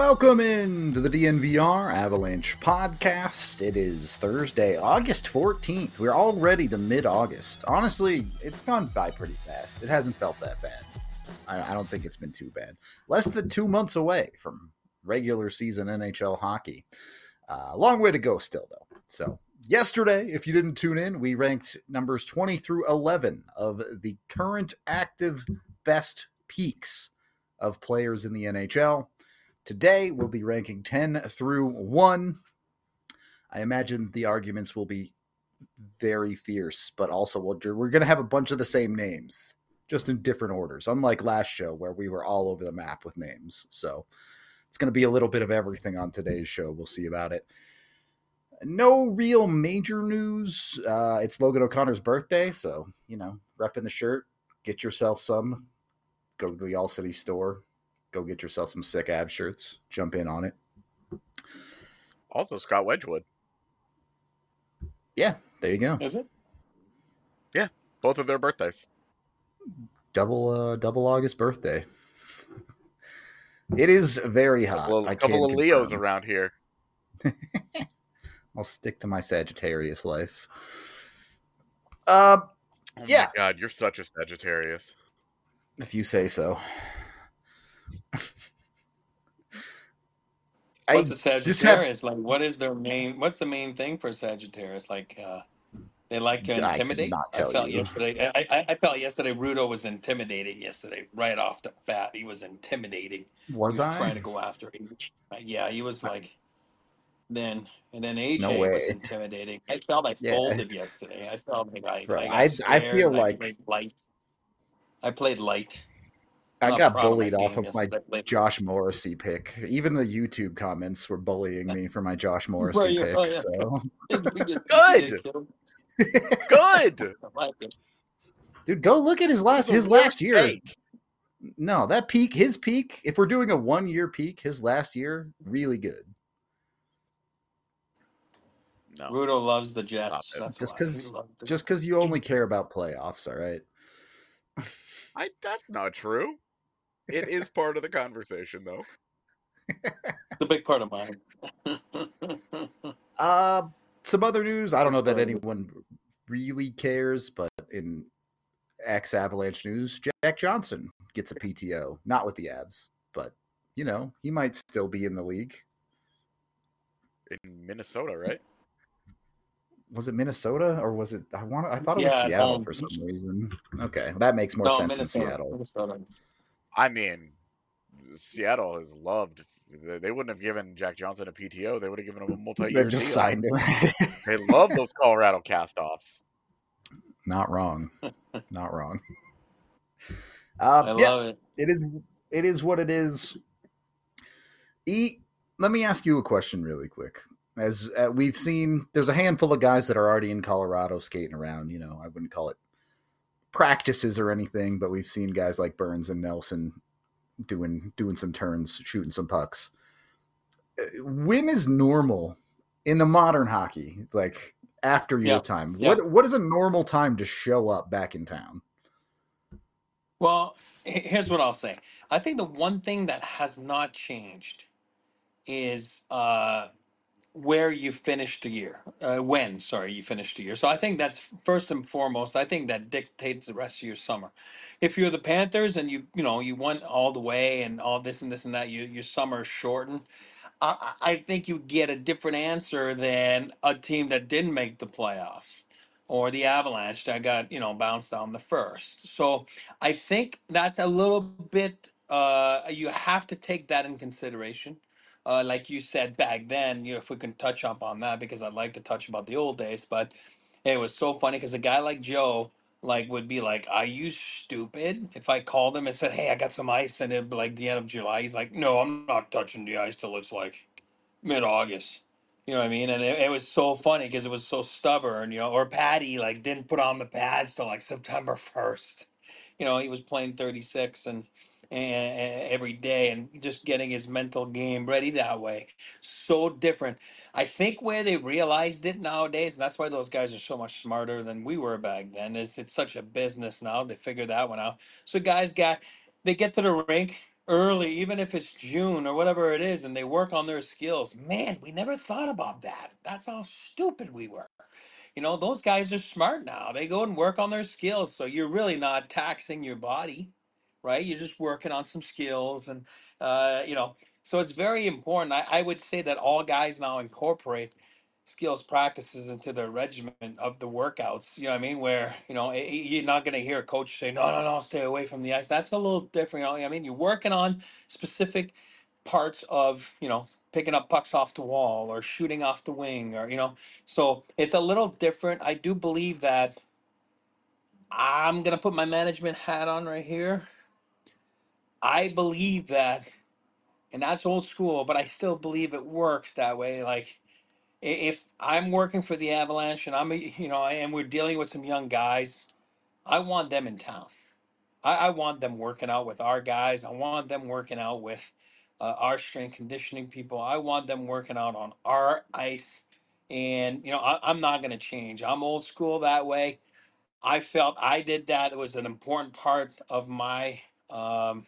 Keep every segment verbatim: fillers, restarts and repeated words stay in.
Welcome into the D N V R Avalanche podcast. It is Thursday, August fourteenth. We're already to mid-August. Honestly, it's gone by pretty fast. It hasn't felt that bad. I, I don't think it's been too bad. Less than two months away from regular season N H L hockey. Uh, long way to go still, though. So yesterday, if you didn't tune in, we ranked numbers twenty through eleven of the current active best peaks of players in the N H L. Today, we'll be ranking ten through one. I imagine the arguments will be very fierce, but also we'll, we're going to have a bunch of the same names, just in different orders, unlike last show where we were all over the map with names. So it's going to be a little bit of everything on today's show. We'll see about it. No real major news. Uh, it's Logan O'Connor's birthday, so, you know, repping the shirt. Get yourself some. Go to the All City store. Go get yourself some sick Avs shirts. Jump in on it. Also, Scott Wedgwood. Yeah, there you go. Is it? Yeah, both of their birthdays. Double, uh, double August birthday. It is very hot. A couple, I couple of can Leos confirm. around here. I'll stick to my Sagittarius life. Uh, Oh yeah. my God, you're such a Sagittarius. If you say so. What's I a Sagittarius? just have- Like, what is their main? What's the main thing for Sagittarius? Like, uh, they like to I intimidate. cannot I tell felt you. yesterday. I, I, I felt yesterday. Rudo was intimidating yesterday, right off the bat. He was intimidating. Was he was I? trying to go after him. Uh, yeah, he was like. Then and then A J No way. was intimidating. I felt I Yeah. folded yesterday. I felt like I, Bro, I got I- I scared. feel and like- I played light. I played light. I Not got proud of my bullied off game of my yesterday. I played Josh Morrissey pick. Even the YouTube comments were bullying me for my Josh Morrissey Right, yeah, pick. oh, yeah. So, Good! Good! I like it. dude, go look at his last The his worst last year. take. No, that peak, his peak. If we're doing a one year peak, his last year, really good. No. Rudo loves the Jets. Stop it. That's Just why. 'cause- He loves the Just because you only care about playoffs, all right? I, that's not true. It is part of the conversation, though. It's a big part of mine. Uh, some other news. I don't know that Sorry. anyone really cares, but in ex-Avalanche news, Jack Johnson gets a P T O. Not with the Avs, but, you know, he might still be in the league. In Minnesota, right? Was it Minnesota or was it? I want. I thought it was Yeah, Seattle um, for some reason. Okay, that makes more no, sense Minnesota. than Seattle. Minnesota. I mean, Seattle has loved. They they wouldn't have given Jack Johnson a P T O. They would have given him a multi-year They just deal. signed him. They love those Colorado cast-offs. Not wrong. Not wrong. I Uh, yeah, love it. it is. It is what it is. E. Let me ask you a question really quick. As uh, we've seen, there's a handful of guys that are already in Colorado skating around. You know, I wouldn't call it practices or anything, but we've seen guys like Burns and Nelson doing doing some turns, shooting some pucks. Uh, When is normal in the modern hockey? Like after your Yeah, time, yeah. what what is a normal time to show up back in town? Well, h- here's what I'll say. I think the one thing that has not changed is uh, where you finished the year. Uh, when, sorry, you finished the year. So I think that's first and foremost. I think that dictates the rest of your summer. If you're the Panthers and you you know you went all the way and all this and this and that, you, your summer is shortened. I, I I think you get a different answer than a team that didn't make the playoffs or the Avalanche that got, you know, bounced down the first. So I think that's a little bit, uh, you have to take that in consideration. Uh, like you said back then, you know, if we can touch up on that, because I'd like to touch about the old days, but it was so funny because a guy like Joe, like, would be like, "Are you stupid?" If I called him and said, "Hey, I got some ice," and it'd be like the end of July, he's like, "No, I'm not touching the ice till it's like mid August." You know what I mean? And it, it was so funny because it was so stubborn, you know. Or Patty like didn't put on the pads till like September first. You know, he was playing thirty-six and, and every day and just getting his mental game ready that way. So different. I think where they realized it nowadays, and that's why those guys are so much smarter than we were back then, is it's such a business now. They figured that one out. So guys got they get to the rink. early, even if it's June or whatever it is, and they work on their skills. Man, we never thought about that. That's how stupid we were. You know, those guys are smart now. They go and work on their skills. So you're really not taxing your body, right? You're just working on some skills. And, uh, you know, so it's very important. I, I would say that all guys now incorporate skills practices into the regimen of the workouts. You know what I mean? Where, you know, eh, you're not going to hear a coach say, no, no, no, stay away from the ice. That's a little different. You know, I mean, you're working on specific parts of, you know, picking up pucks off the wall or shooting off the wing, or, you know, so it's a little different. I do believe that I'm going to put my management hat on right here. I believe that, and that's old school, but I still believe it works that way. Like, i- if I'm working for the Avalanche and I'm, a, you know, and we're dealing with some young guys, I want them in town. I, I want them working out with our guys. I want them working out with uh, our strength conditioning people. I want them working out on our ice. And, you know, I, I'm not going to change. I'm old school that way. I felt I did that. It was an important part of my um,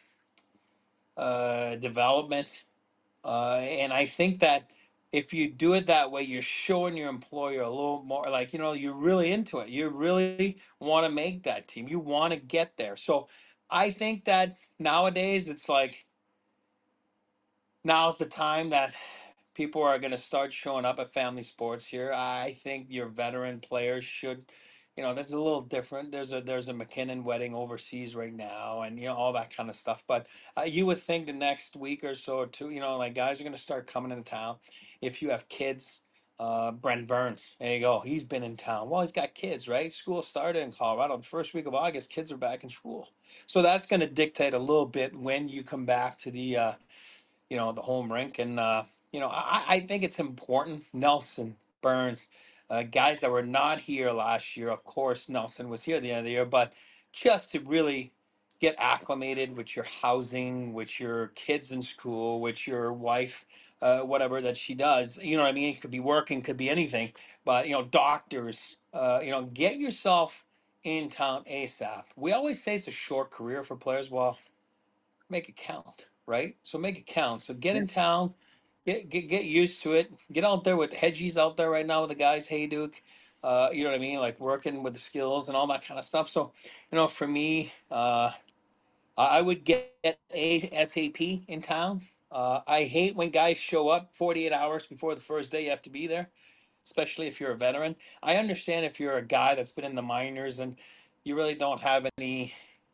uh, development. Uh, and I think that if you do it that way, you're showing your employer a little more like, you know, you're really into it. You really want to make that team. You want to get there. So I think that nowadays it's like, now's the time that people are going to start showing up at family sports here. I think your veteran players should, you know, this is a little different. There's a there's a McKinnon wedding overseas right now, and you know all that kind of stuff. But uh, you would think the next week or so or two, you know, like guys are going to start coming into town. If you have kids, uh, Brent Burns, there you go. He's been in town. Well, he's got kids, right? School started in Colorado. The first week of August, kids are back in school. So that's going to dictate a little bit when you come back to the uh, you know, the home rink. And, uh, you know, I, I think it's important. Nelson, Burns, uh, guys that were not here last year. Of course, Nelson was here at the end of the year, but just to really get acclimated with your housing, with your kids in school, with your wife, uh, whatever that she does. You know what I mean? It could be working, could be anything, but, you know, doctors, uh, you know, get yourself in town ASAP. We always say it's a short career for players. Well, make it count, right? So make it count. So get Yeah. in town, get get get used to it. Get out there with Hedgie's out there right now with the guys, Hey Duke. Uh, you know what I mean? Like working with the skills and all that kind of stuff. So, you know, for me, uh, I I would get ASAP in town. Uh, I hate when guys show up forty-eight hours before the first day you have to be there, especially if you're a veteran. I understand if you're a guy that's been in the minors and you really don't have any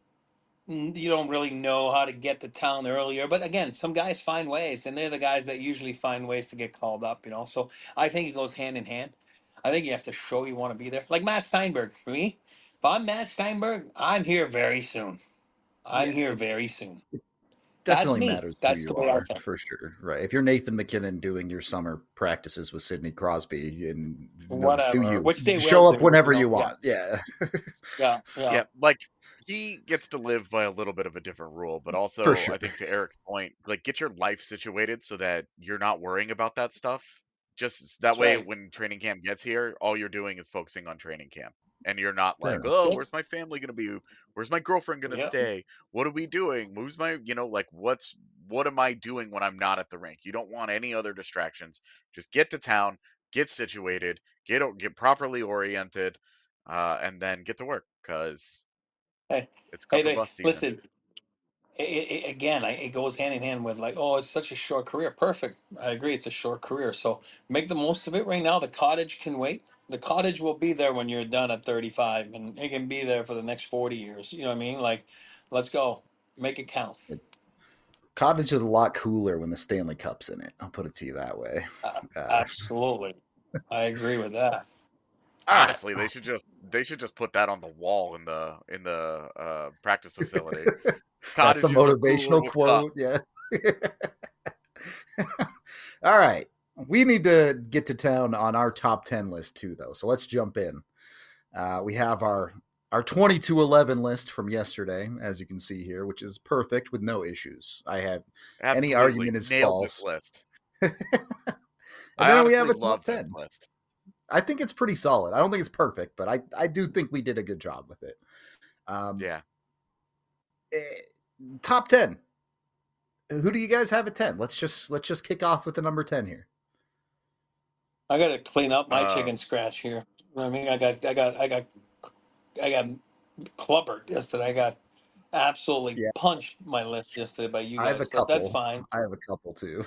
you don't really know how to get to town earlier. But again, some guys find ways, and they're the guys that usually find ways to get called up, you know. So I think it goes hand in hand. I think you have to show you want to be there. Like Matt Steinberg, for me, if I'm Matt Steinberg, I'm here very soon. I'm Yeah, here it very soon. That's definitely me. matters who That's the you way I are, think. for sure. Right. If you're Nathan McKinnon doing your summer practices with Sidney Crosby, and no, do Whatever. you Which they will show up do, you whenever know. you Yeah. want? Yeah. Yeah. Yeah. Yeah, like he gets to live by a little bit of a different rule, but For also sure. I think to Eric's point, like get your life situated so that you're not worrying about that stuff. Just s- that That's way, right. when training camp gets here, all you're doing is focusing on training camp, and you're not Fair like, enough. oh, Yes. where's my family gonna be? Where's my girlfriend gonna Yeah. stay? What are we doing? Who's my, you know, like what's what am I doing when I'm not at the rink? You don't want any other distractions. Just get to town, get situated, get o- get properly oriented, uh, and then get to work because Hey, it's hey, cup or Nick, bust season. listen. it, it, again, I, it goes hand in hand with like, oh, it's such a short career. Perfect. I agree. It's a short career. So make the most of it right now. The cottage can wait. The cottage will be there when you're done at thirty-five, and it can be there for the next forty years. You know what I mean? Like, let's go. Make it count. Cottage is a lot cooler when the Stanley Cup's in it. I'll put it to you that way. Uh, Uh, absolutely. I agree with that. all right. Honestly, they should just they should just put that on the wall in the in the uh, practice facility. That's the Cottages are cooler motivational with quote. cups. Yeah. All right. We need to get to town on our top ten list too, though. So let's jump in. Uh, we have our our twenty-two eleven list from yesterday, as you can see here, which is perfect with no issues. I have any Absolutely argument is nailed this false. list. And I then we have honestly a top love this ten. list. I think it's pretty solid. I don't think it's perfect, but I, I do think we did a good job with it. Um, Yeah. eh, top ten. Who do you guys have at ten? Let's just let's just kick off with the number ten here. I got to clean up my Uh, chicken scratch here. You know what I mean, I got, I got, I got, I got clubbered yesterday. I got absolutely Yeah. punched my list yesterday by you I have a guys, but that's couple. fine. I have a couple too.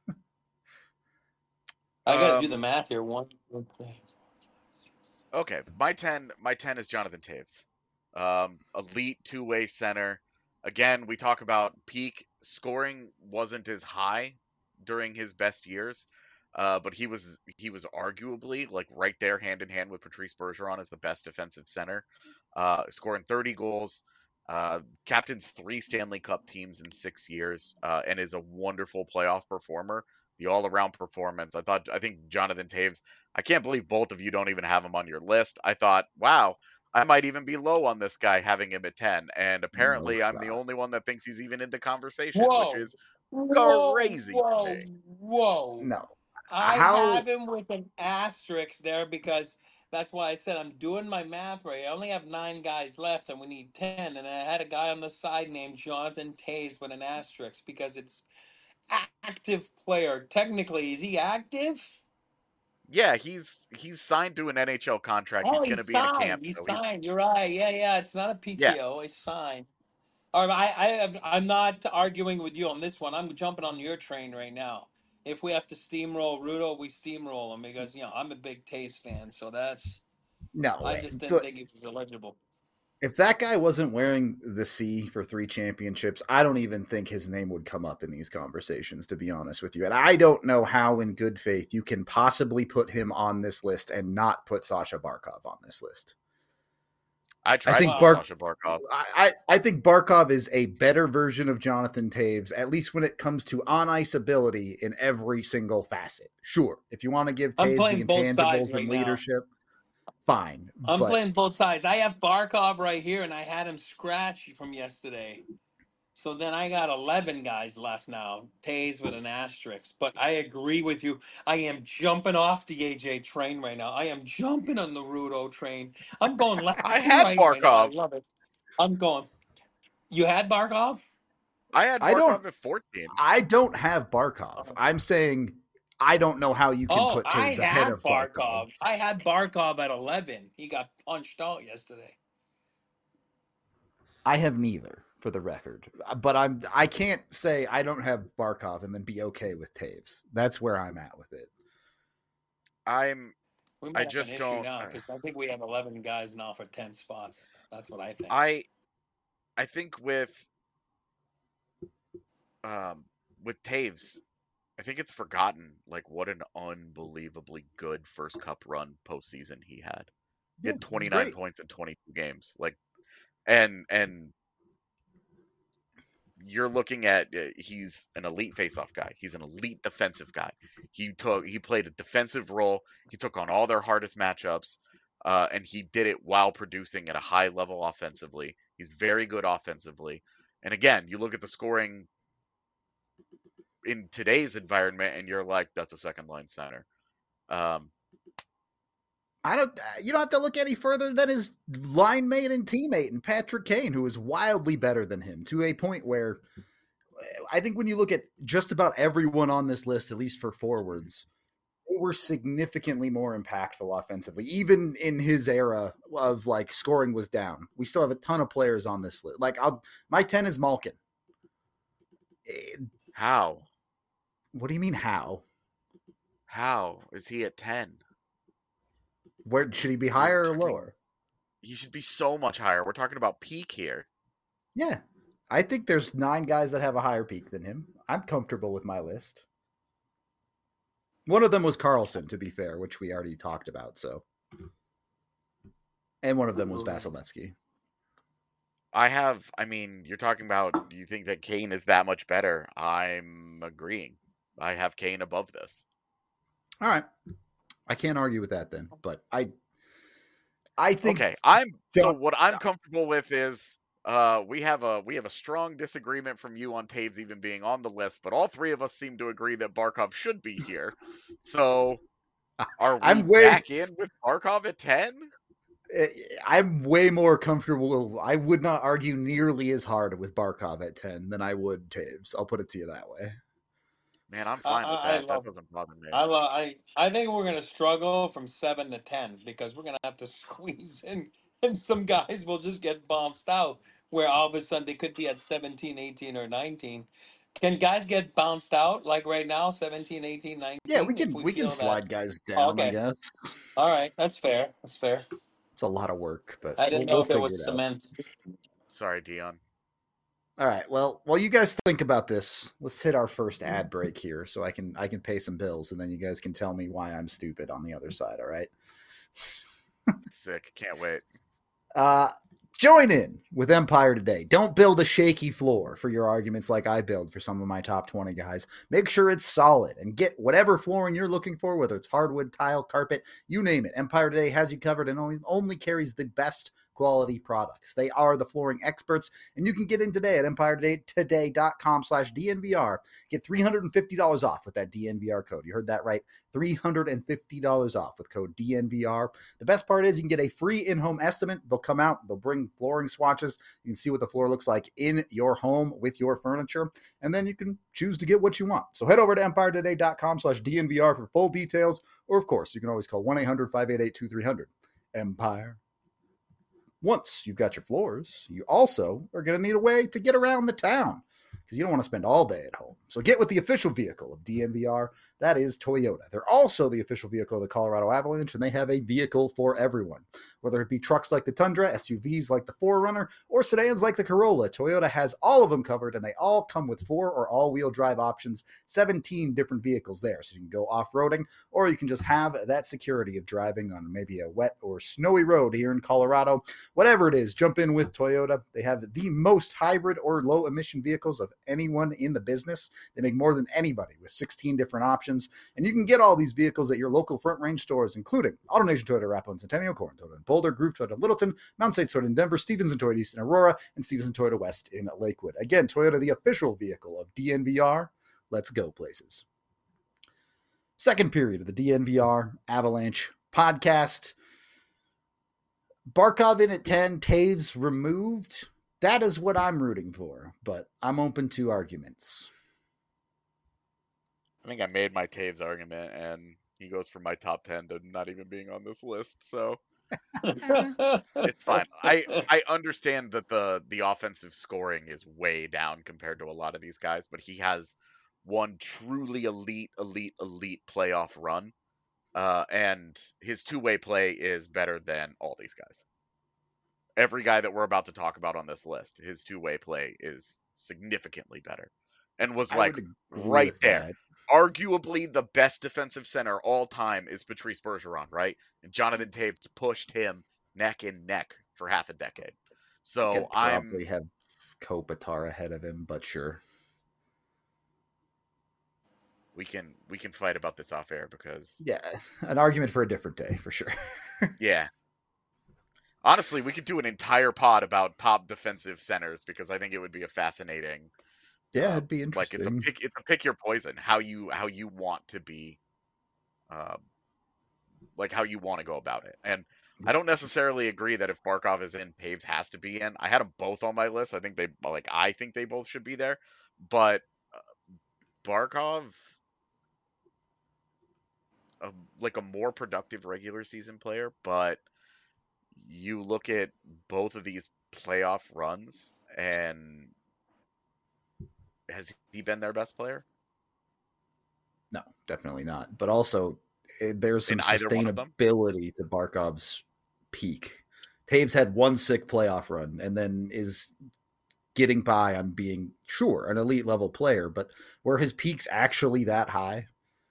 I got to do the um, math here. One, two, three, six. okay, my ten, my ten is Jonathan Taves, um, elite two-way center. Again, we talk about peak scoring wasn't as high during his best years, uh, but he was he was arguably like right there, hand in hand with Patrice Bergeron as the best defensive center, uh, scoring thirty goals. Uh, captains three Stanley Cup teams in six years, uh, and is a wonderful playoff performer. The all-around performance. I thought. I think Jonathan Taves. I can't believe both of you don't even have him on your list. I thought, wow, I might even be low on this guy having him at ten. And No apparently I'm the shot. only one that thinks he's even in the conversation, which Whoa, is whoa, crazy to whoa, me. whoa. No. I How have him with an asterisk there because that's why I said I'm doing my math right. I only have nine guys left and we need ten. And I had a guy on the side named Jonathan Tays with an asterisk because it's active player. Technically, is he active? Yeah, he's he's signed to an N H L contract. Oh, He's going to he's be in a signed. camp, He's so he's signed. You're right. Yeah, yeah. It's not a yeah. P T O. It's signed. All right, I, I have, I'm not arguing with you on this one. I'm jumping on your train right now. If we have to steamroll Rudo, we steamroll him because you know I'm a big Taste fan. So that's no I way. just didn't The- think he was eligible. if that guy wasn't wearing the C for three championships, I don't even think his name would come up in these conversations, to be honest with you. And I don't know how, in good faith, you can possibly put him on this list and not put Sasha Barkov on this list. I tried I think to put Bark. Sasha Barkov. I, I I think Barkov is a better version of Jonathan Taves, at least when it comes to on ice ability in every single facet. Sure, if you want to give I'm Taves playing the both sides intangibles right and now. leadership, fine. I'm But playing both sides. I have Barkov right here, and I had him scratch from yesterday. So then I got eleven guys left now. Tays with an asterisk. But I agree with you. I am jumping off the A J train right now. I am jumping on the Rudo train. I'm going left I and had right right now. I Barkov. love it. I'm going. You had Barkov? I had I don't Barkov at fourteen. I don't have Barkov. Oh, I'm saying I don't know how you can Oh, put I Taves ahead have of Barkov. Barkov. I had Barkov at eleven. He got punched out yesterday. I have neither, for the record. But I'm I can't say I don't have Barkov and then be okay with Taves. That's where I'm at with it. I'm We I might have an just issue don't now uh, because I think we have eleven guys now for ten spots. That's what I think. I I think with um with Taves, I think it's forgotten like what an unbelievably good first cup run postseason he had. He Yeah, had it was twenty-nine great. points in twenty-two games. Like and and you're looking at uh, he's an elite faceoff guy. He's an elite defensive guy. He took he played a defensive role. He took on all their hardest matchups, uh, and he did it while producing at a high level offensively. He's very good offensively. And again, you look at the scoring in today's environment, and you're like, that's a second line center. Um, I don't. You don't have to look any further than his line mate and teammate, and Patrick Kane, who is wildly better than him, to a point where I think when you look at just about everyone on this list, at least for forwards, they were significantly more impactful offensively. Even in his era of like scoring was down, we still have a ton of players on this list. Like I'll, my ten is Malkin. Eh, how? What do you mean how? How is he at ten? Where should he be, We're higher or talking, lower? he should be so much higher. We're talking about peak here. Yeah, I think there's nine guys that have a higher peak than him. I'm comfortable with my list. One of them was Carlson, to be fair, which we already talked about. So, and one of them was Vasilevsky. I have, I mean, you're talking about, do you think that Kane is that much better? I'm agreeing. I have Kane above this. All right. I can't argue with that then, but I I think Okay, I'm so Don't- what I'm comfortable with is uh we have a we have a strong disagreement from you on Taves even being on the list, but all three of us seem to agree that Barkov should be here. So are we I'm way back in with Barkov at ten? I'm way more comfortable. I would not argue nearly as hard with Barkov at ten than I would Taves. I'll put it to you that way. Man, I'm I, fine with I, I that. That love. doesn't bother me. I love. I. I think we're gonna struggle from seven to ten because we're gonna have to squeeze in, and some guys will just get bounced out. Where all of a sudden they could be at seventeen, eighteen, or nineteen. Can guys get bounced out like right now, seventeen, eighteen, Yeah, we nineteen? If can we we can feel that. slide guys Oh, down. I okay. guess All right. That's fair. That's fair. it's a lot of work, but I we'll, didn't know we'll if it figure was it out. cement. Sorry, Dion. All right. Well, while you guys think about this, let's hit our first ad break here, so I can I can pay some bills, and then you guys can tell me why I'm stupid on the other side. All right. Sick. Can't wait. Uh, join in with Empire today. Don't build a shaky floor for your arguments like I build for some of my top twenty guys. Make sure it's solid and get whatever flooring you're looking for, whether it's hardwood, tile, carpet, you name it. Empire Today has you covered and only, only carries the best quality products. They are the flooring experts, and you can get in today at empire today dot com slash D N V R. Get three hundred fifty dollars off with that D N V R code. You heard that right. three hundred fifty dollars off with code D N V R. The best part is you can get a free in-home estimate. They'll come out, they'll bring flooring swatches. You can see what the floor looks like in your home with your furniture, and then you can choose to get what you want. So head over to empire today dot com slash D N V R for full details, or of course, you can always call one eight hundred, five eight eight, two three zero zero. Empire. Once you've got your floors, you also are going to need a way to get around the town because you don't want to spend all day at home. So get with the official vehicle of D N V R. That is Toyota. They're also the official vehicle of the Colorado Avalanche, and they have a vehicle for everyone. Whether it be trucks like the Tundra, S U Vs like the four runner, or sedans like the Corolla, Toyota has all of them covered, and they all come with four or all-wheel drive options, seventeen different vehicles there. So you can go off-roading, or you can just have that security of driving on maybe a wet or snowy road here in Colorado. Whatever it is, jump in with Toyota. They have the most hybrid or low-emission vehicles of anyone in the business. They make more than anybody with sixteen different options, and you can get all these vehicles at your local Front Range stores, including AutoNation Toyota, Arapahoe and Centennial, Corin Toyota in Boulder, Groove Toyota in Littleton, Mountain State Toyota in Denver, Stevenson Toyota East in Aurora, and Stevenson Toyota West in Lakewood. Again, Toyota, the official vehicle of D N V R. Let's go places. Second period of the D N V R Avalanche podcast. Barkov in at ten, Taves removed. That is what I'm rooting for, but I'm open to arguments. I think I made my Taves argument, and he goes from my top ten to not even being on this list, so it's fine. I I understand that the the offensive scoring is way down compared to a lot of these guys, but he has one truly elite, elite, elite playoff run, uh, and his two-way play is better than all these guys. Every guy that we're about to talk about on this list, his two-way play is significantly better, and was like right there. That. Arguably the best defensive center all time is Patrice Bergeron, right? And Jonathan Taves pushed him neck and neck for half a decade. So I probably have Kopitar ahead of him, but sure. We can we can fight about this off air because yeah, an argument for a different day for sure. Yeah. Honestly, we could do an entire pod about top defensive centers because I think it would be a fascinating. Yeah, it'd be interesting. Like it's a pick, it's a pick your poison. How you how you want to be, uh, like how you want to go about it. And I don't necessarily agree that if Barkov is in, Taves has to be in. I had them both on my list. I think they like I think they both should be there, but uh, Barkov, uh, like a more productive regular season player, but you look at both of these playoff runs and. Has he been their best player? No, definitely not. But also, there's some sustainability to Barkov's peak. Taves had one sick playoff run and then is getting by on being, sure, an elite level player, but were his peaks actually that high?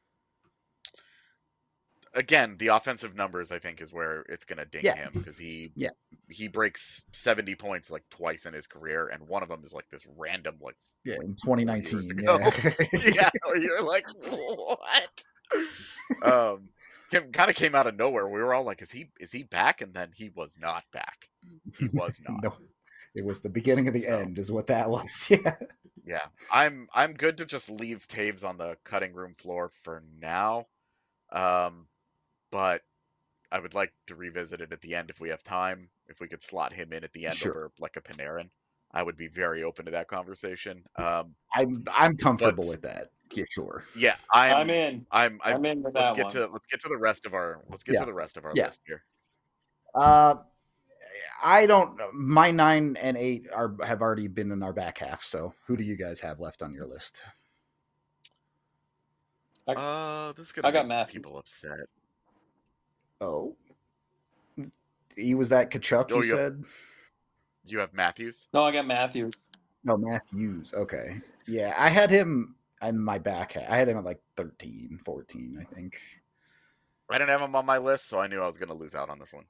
Again, the offensive numbers, I think, is where it's going to ding yeah. him because he yeah. he breaks seventy points like twice in his career, and one of them is like this random like yeah in twenty nineteen. Yeah, yeah, you're like what? um, kind of came out of nowhere. We were all like, "Is he is he back?" And then he was not back. He was not. No, it was the beginning of the so, end, is what that was. Yeah, yeah. I'm I'm good to just leave Taves on the cutting room floor for now. Um. But I would like to revisit it at the end if we have time. If we could slot him in at the end Sure. over like a Panarin, I would be very open to that conversation. Um, I'm I'm but comfortable with that. Yeah, sure. yeah, I'm I'm in. I'm I I'm in with let's that get one. to let's get to the rest of our let's get Yeah. to the rest of our Yeah. list here. Uh, I don't. My nine and eight are have already been in our back half. So who do you guys have left on your list? I, Uh, this is I gonna got make Matthews. people upset. Oh, he was that Kachuk Oh, you you have, said? you have Matthews. No, I got Matthews. No, Matthews. Okay. Yeah, I had him in my back half. I had him at like thirteen, fourteen, I think. I didn't have him on my list, so I knew I was gonna lose out on this one.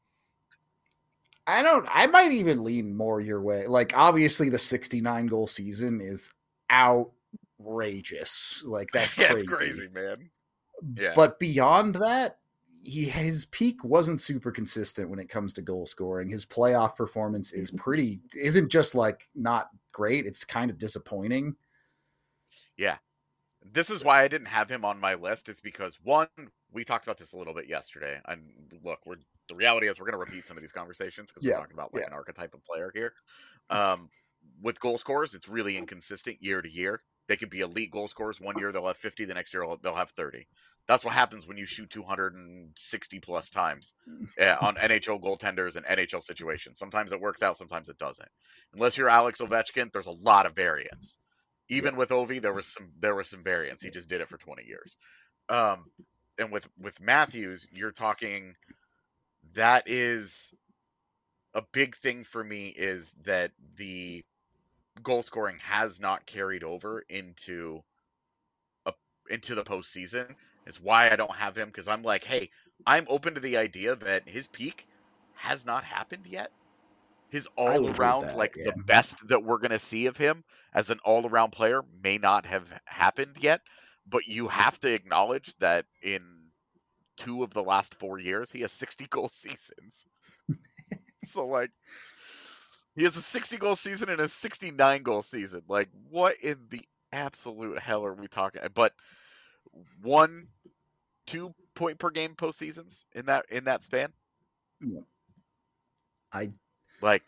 I don't. I might even lean more your way. Like, obviously, the sixty-nine goal season is outrageous. Like, that's yeah, crazy. it's crazy, man. Yeah. But beyond that, he his peak wasn't super consistent when it comes to goal scoring. His playoff performance is pretty. Isn't just like not great. It's kind of disappointing. Yeah. This is why I didn't have him on my list. Is because one, we talked about this a little bit yesterday, and look, we're the reality is we're going to repeat some of these conversations because Yeah, we're talking about like yeah. an archetype of player here. Um, with goal scorers, it's really inconsistent year to year. They could be elite goal scorers. One year they'll have fifty, the next year they'll have thirty. That's what happens when you shoot two hundred sixty plus times uh, on N H L goaltenders and N H L situations. Sometimes it works out, sometimes it doesn't. Unless you're Alex Ovechkin, there's a lot of variance. Even Yeah. with Ovi, there was some there was some variance. He just did it for twenty years. Um, and with with Matthews, you're talking that is a big thing for me is that the goal scoring has not carried over into a into the postseason. It's why I don't have him because I'm like, hey, I'm open to the idea that his peak has not happened yet. His I all would agree with around, that. like Yeah. the best that we're gonna see of him as an all around player may not have happened yet. But you have to acknowledge that in two of the last four years, he has sixty goal seasons. So like he has a sixty goal season and a sixty-nine goal season. Like, what in the absolute hell are we talking? But one, two point per game postseasons in that in that span. Yeah. I Like,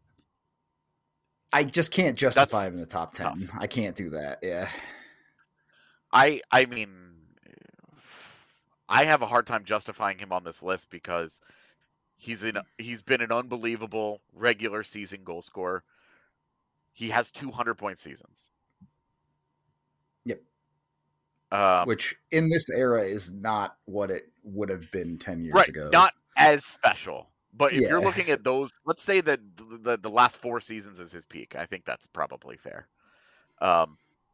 I just can't justify that's him in the top ten. tough. I can't do that. Yeah. I I mean, I have a hard time justifying him on this list because he's in he's been an unbelievable regular season goal scorer. He has two hundred point seasons. Yep. Um, Which in this era is not what it would have been ten years right, ago. not as special. But if Yeah. you're looking at those, let's say that the, the the last four seasons is his peak. I think that's probably fair. Um,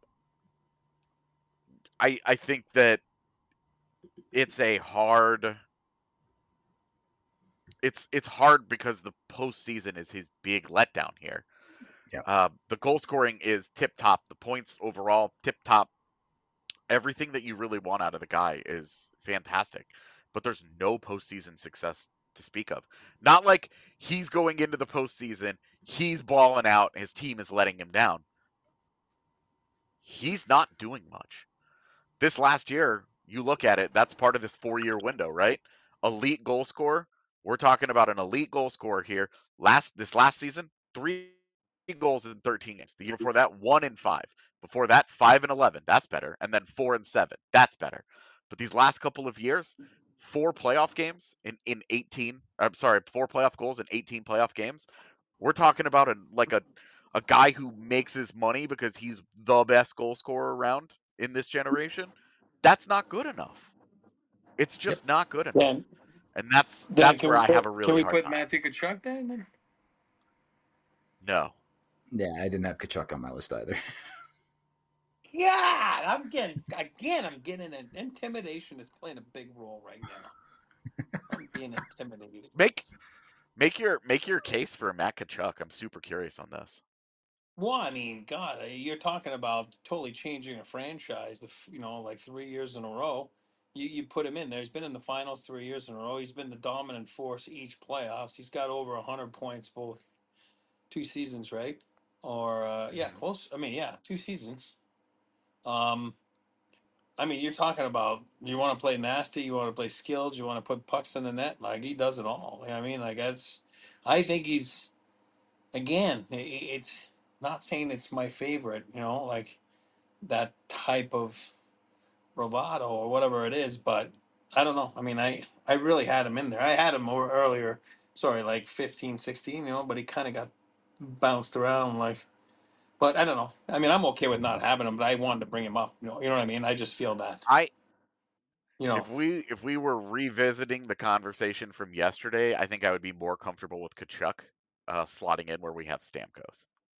I I think that it's a hard. It's it's hard because the postseason is his big letdown here. Yeah. Uh, the goal scoring is tip top. The points overall tip top. Everything that you really want out of the guy is fantastic, but there's no postseason success to speak of. Not like he's going into the postseason, he's balling out, his team is letting him down. He's not doing much. This last year, you look at it, that's part of this four-year window, right? Elite goal scorer. We're talking about an elite goal scorer here. Last this last season, three goals in thirteen games. The year before that, one in five. Before that, five and eleven. That's better. And then four and seven. That's better. But these last couple of years, four playoff games in in eighteen. I'm sorry, four playoff goals in eighteen playoff games. We're talking about a like a a guy who makes his money because he's the best goal scorer around in this generation. That's not good enough. It's just Yep. not good enough. Dan, And that's Dan, that's can where we I put, have a can really we hard put time. Matthew Tkachuk then? then? No. Yeah, I didn't have Kachuk on my list either. Yeah, I'm getting again. I'm getting an intimidation is playing a big role right now. I'm being intimidated. Make make your make your case for Matt Tkachuk. I'm super curious on this. Well, I mean, God, you're talking about totally changing a franchise. The f- you know, like three years in a row, you you put him in there. He's been in the finals three years in a row. He's been the dominant force each playoffs. He's got over a hundred points both two seasons, right? Or uh, yeah, Mhm. close. I mean, yeah, two seasons. Um, I mean, you're talking about you want to play nasty, you want to play skilled, you want to put pucks in the net. Like he does it all. You know what I mean, like that's. I think he's again. i- i- It's not saying it's my favorite. You know, like that type of bravado or whatever it is, but I don't know. I mean, I I really had him in there. I had him more earlier. Sorry, like fifteen, sixteen. You know, but he kind of got bounced around like. But I don't know. I mean, I'm okay with not having him, but I wanted to bring him up. You know, you know what I mean. I just feel that. I You know. if we if we were revisiting the conversation from yesterday, I think I would be more comfortable with Kachuk uh, slotting in where we have Stamkos.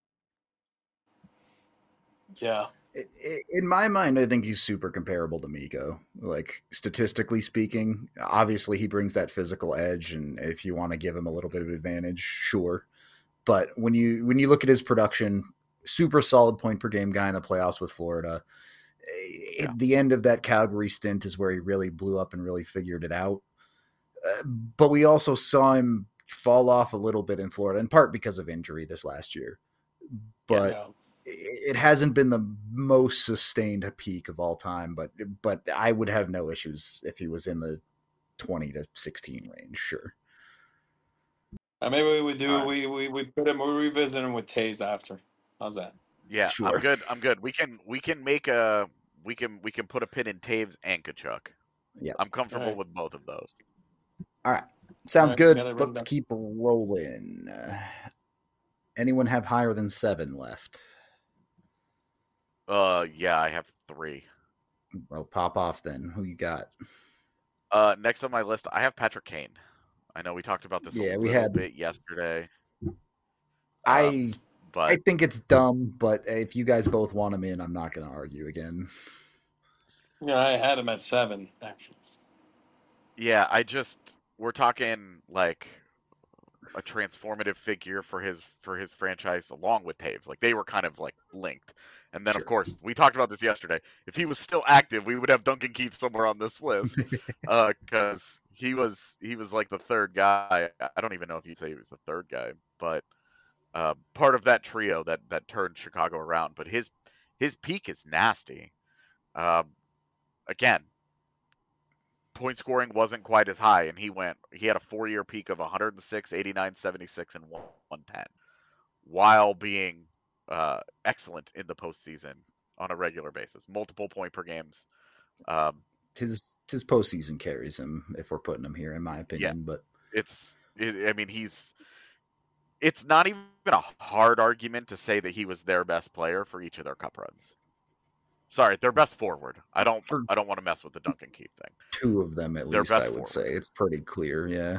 Yeah. I- I- In my mind, I think he's super comparable to Miko. Like statistically speaking, obviously he brings that physical edge, and if you want to give him a little bit of advantage, sure. But when you when you look at his production, super solid point per game guy in the playoffs with Florida. Yeah. At the end of that Calgary stint is where he really blew up and really figured it out. Uh, but we also saw him fall off a little bit in Florida, in part because of injury this last year. But Yeah. it hasn't been the most sustained peak of all time. But but I would have no issues if he was in the twenty to sixteen range. Sure. Uh, maybe we do. All right. We, we we put him. We revisit him with Taze after. How's that? Yeah, Sure. I'm good. I'm good. We can we can make a we can we can put a pin in Taves and Kachuk. Yeah. I'm comfortable Alright. with both of those. All right. Sounds Alright, good. got it written Let's down. keep rolling. Uh, anyone have higher than seven left? Uh, yeah, I have three. Well, pop off then. Who you got? Uh, next on my list, I have Patrick Kane. I know we talked about this Yeah, a we little had- bit yesterday. I Um, but I think it's dumb, but if you guys both want him in, I'm not going to argue again. Yeah, I had him at seven actually. yeah, I just we're talking like a transformative figure for his for his franchise along with Taves. Like they were kind of like linked. And then Sure. of course we talked about this yesterday. If he was still active, we would have Duncan Keith somewhere on this list. uh because he was he was like the third guy. I don't even know if you'd say he was the third guy, but uh, part of that trio that that turned Chicago around. But his his peak is nasty. Um, again, point scoring wasn't quite as high, and he went. He had a four year peak of one hundred six, eighty-nine, seventy-six, and one ten, while being uh, excellent in the postseason on a regular basis, multiple point per games. Um, His his postseason carries him if we're putting him here, in my opinion. But it's. It, I mean, he's. It's not even a hard argument to say that he was their best player for each of their cup runs. Sorry, their best forward. I don't. For- I don't want to mess with the Duncan Keith thing. two of them at Their least, best I would forward. say it's pretty clear. Yeah.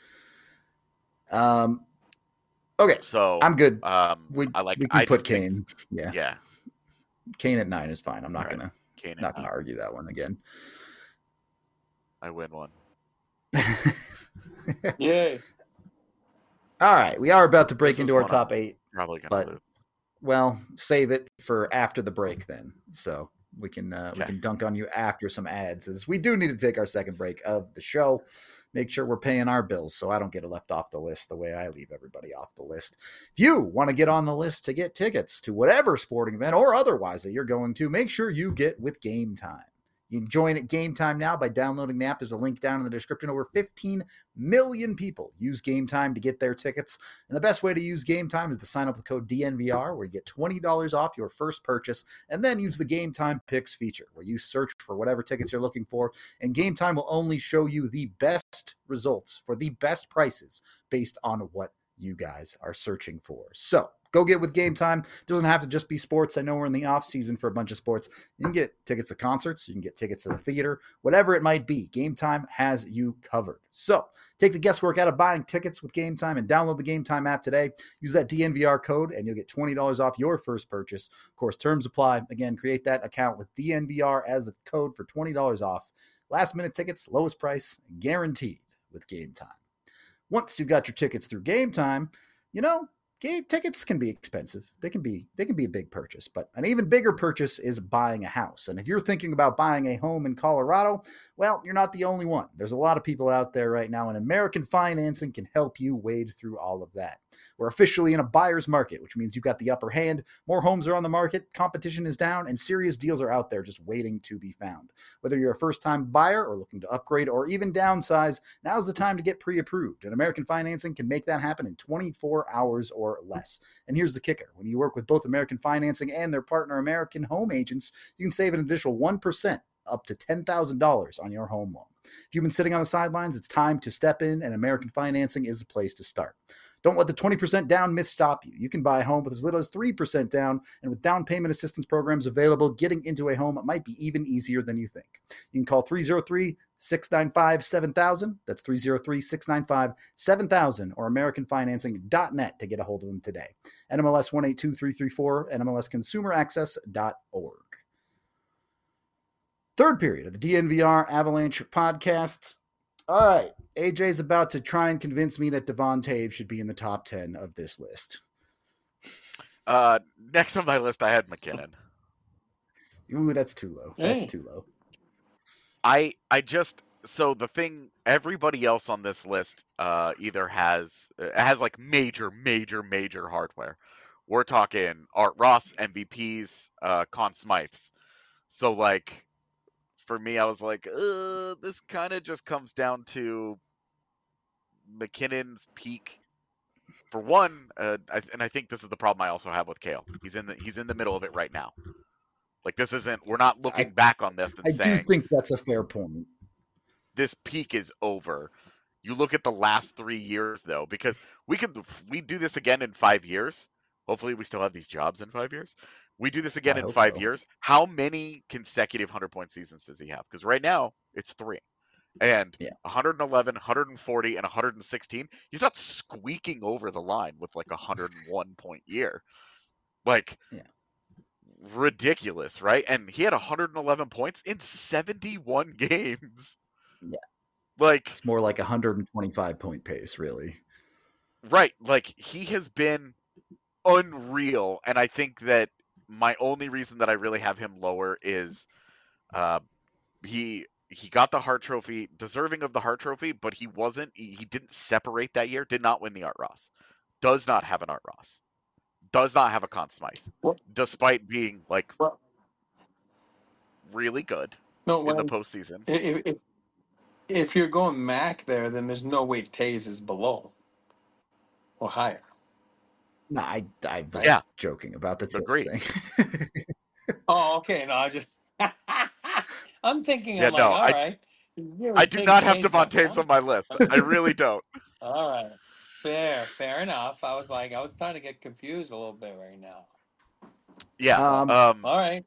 Um. Okay, So I'm good. Um, We I like. we can I put just think- Kane. Yeah, yeah, Kane at nine is fine. I'm not All right. gonna Kane. and not gonna nine. argue that one again. I win one. Yay. All right, we are about to break This is into our one top I'm eight. Probably gonna But- lose. Well, save it for after the break then, so we can uh, we Okay. can dunk on you after some ads. As we do need to take our second break of the show. Make sure we're paying our bills so I don't get left off the list the way I leave everybody off the list. If you want to get on the list to get tickets to whatever sporting event or otherwise that you're going to, make sure you get with Game Time. You can join at Game Time now by downloading the app. There's a link down in the description. Over fifteen million people use Game Time to get their tickets. And the best way to use Game Time is to sign up with code D N V R, where you get twenty dollars off your first purchase, and then use the Game Time Picks feature, where you search for whatever tickets you're looking for, and Game Time will only show you the best results for the best prices based on what you guys are searching for. So go get with Game Time. It doesn't have to just be sports. I know we're in the off season for a bunch of sports. You can get tickets to concerts. You can get tickets to the theater, whatever it might be. Game Time has you covered. So take the guesswork out of buying tickets with Game Time and download the Game Time app today. Use that D N V R code and you'll get twenty dollars off your first purchase. Of course, terms apply. Again, create that account with D N V R as the code for twenty dollars off. Last minute tickets, lowest price, guaranteed with Game Time. Once you've got your tickets through Game Time, you know, game tickets can be expensive. They can be they can be a big purchase, but an even bigger purchase is buying a house. And if you're thinking about buying a home in Colorado, well, you're not the only one. There's a lot of people out there right now, and American Financing can help you wade through all of that. We're officially in a buyer's market, which means you've got the upper hand. More homes are on the market, competition is down, and serious deals are out there just waiting to be found. Whether you're a first-time buyer or looking to upgrade or even downsize, now's the time to get pre-approved. And American Financing can make that happen in twenty-four hours or less. And here's the kicker. When you work with both American Financing and their partner American Home Agents, you can save an additional one percent up to ten thousand dollars on your home loan. If you've been sitting on the sidelines, it's time to step in, and American Financing is the place to start. Don't let the twenty percent down myth stop you. You can buy a home with as little as three percent down, and with down payment assistance programs available, getting into a home might be even easier than you think. You can call three oh three, six nine five, seven thousand. That's three oh three, six nine five, seven thousand or american financing dot net to get a hold of them today. N M L S one eight two three three four, N M L S consumer access dot org. Third period of the D N V R Avalanche podcast. All right, A J's about to try and convince me that Devon Toews should be in the top ten of this list. Uh, next on my list, I had MacKinnon. Ooh, that's too low. That's hey. too low. I I just so the thing. Everybody else on this list uh, either has has like major, major, major hardware. We're talking Art Ross, M V Ps, uh, Conn Smythes. So like. For me, I was like, uh, this kind of just comes down to MacKinnon's peak. For one, uh, I, and I think this is the problem I also have with Cale. He's in the he's in the middle of it right now. Like this isn't. We're not looking I, back on this and I saying. I do think that's a fair point. This peak is over. You look at the last three years though, because we could we do this again in five years. Hopefully, we still have these jobs in five years. We do this again I in five so. years. How many consecutive hundred-point seasons does he have? Because right now, it's three. And yeah. one eleven, one forty, and one sixteen, he's not squeaking over the line with like a one hundred one-point year. Like, yeah. ridiculous, right? And he had one hundred eleven points in seventy-one games. Yeah. Like it's more like a one hundred twenty-five point pace, really. Right. Like, he has been unreal, and I think that my only reason that I really have him lower is uh, he he got the Hart Trophy, deserving of the Hart Trophy, but he wasn't. He, he didn't separate that year. Did not win the Art Ross. Does not have an Art Ross. Does not have a Conn Smythe, what? Despite being like what? really good no, in the postseason. If, if, if you're going Mac there, then there's no way Toews is below or higher. No, I, I was yeah. joking about the Agreed. thing. Oh, okay. No, I just I'm thinking. Yeah, I'm like, no, all I, right. I do not have Devon Toews on my list. I really don't. All right, fair, fair enough. I was like, I was starting to get confused a little bit right now. Yeah. Um, um all right.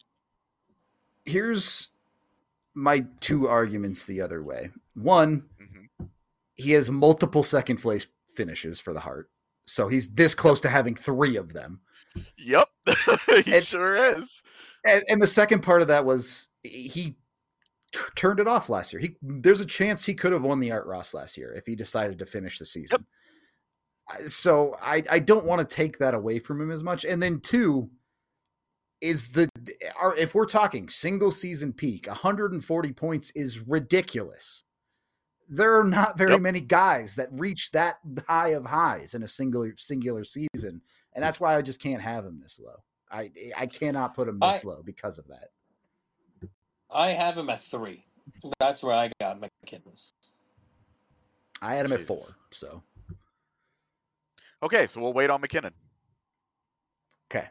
Here's my two arguments the other way. One, mm-hmm. he has multiple second place finishes for the Hart. So he's this close to having three of them. Yep, he and, sure is. And, and the second part of that was he t- turned it off last year. He there's a chance he could have won the Art Ross last year if he decided to finish the season. Yep. So I, I don't want to take that away from him as much. And then two is the our, if we're talking single season peak, one hundred forty points is ridiculous. There are not very yep. many guys that reach that high of highs in a singular singular season, and that's why I just can't have him this low. I I cannot put him this I, low because of that. I have him at three. That's where I got MacKinnon. I had him Jesus. at four. So okay, so we'll wait on MacKinnon. Okay,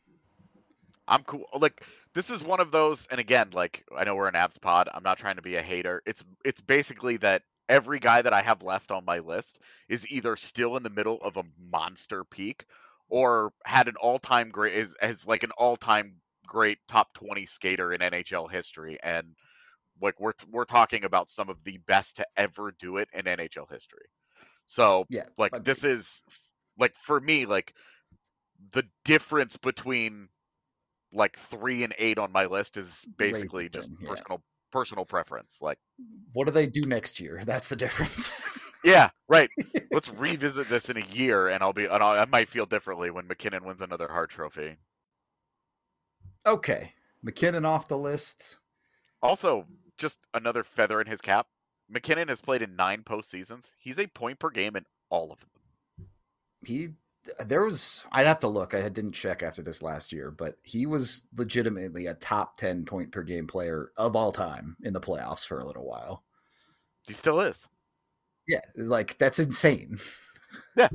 I'm cool. Like. This is one of those, and again, like, I know we're an Abs pod. I'm not trying to be a hater. It's it's basically that every guy that I have left on my list is either still in the middle of a monster peak or had an all-time great, is as like an all-time great top twenty skater in N H L history. And like we're we're talking about some of the best to ever do it in N H L history. So yeah, like agreed. This is like for me, like the difference between like three and eight on my list is basically Raising just thing, yeah. personal personal preference. Like, what do they do next year? That's the difference. Yeah, right. Let's revisit this in a year, and I'll be. And I'll, I might feel differently when McKinnon wins another Hart Trophy. Okay, McKinnon off the list. Also, just another feather in his cap. McKinnon has played in nine postseasons. He's a point per game in all of them. He there was I'd have to look. I didn't check after this last year, but he was legitimately a top ten point per game player of all time in the playoffs for a little while. He still is. Yeah, like that's insane. Yeah.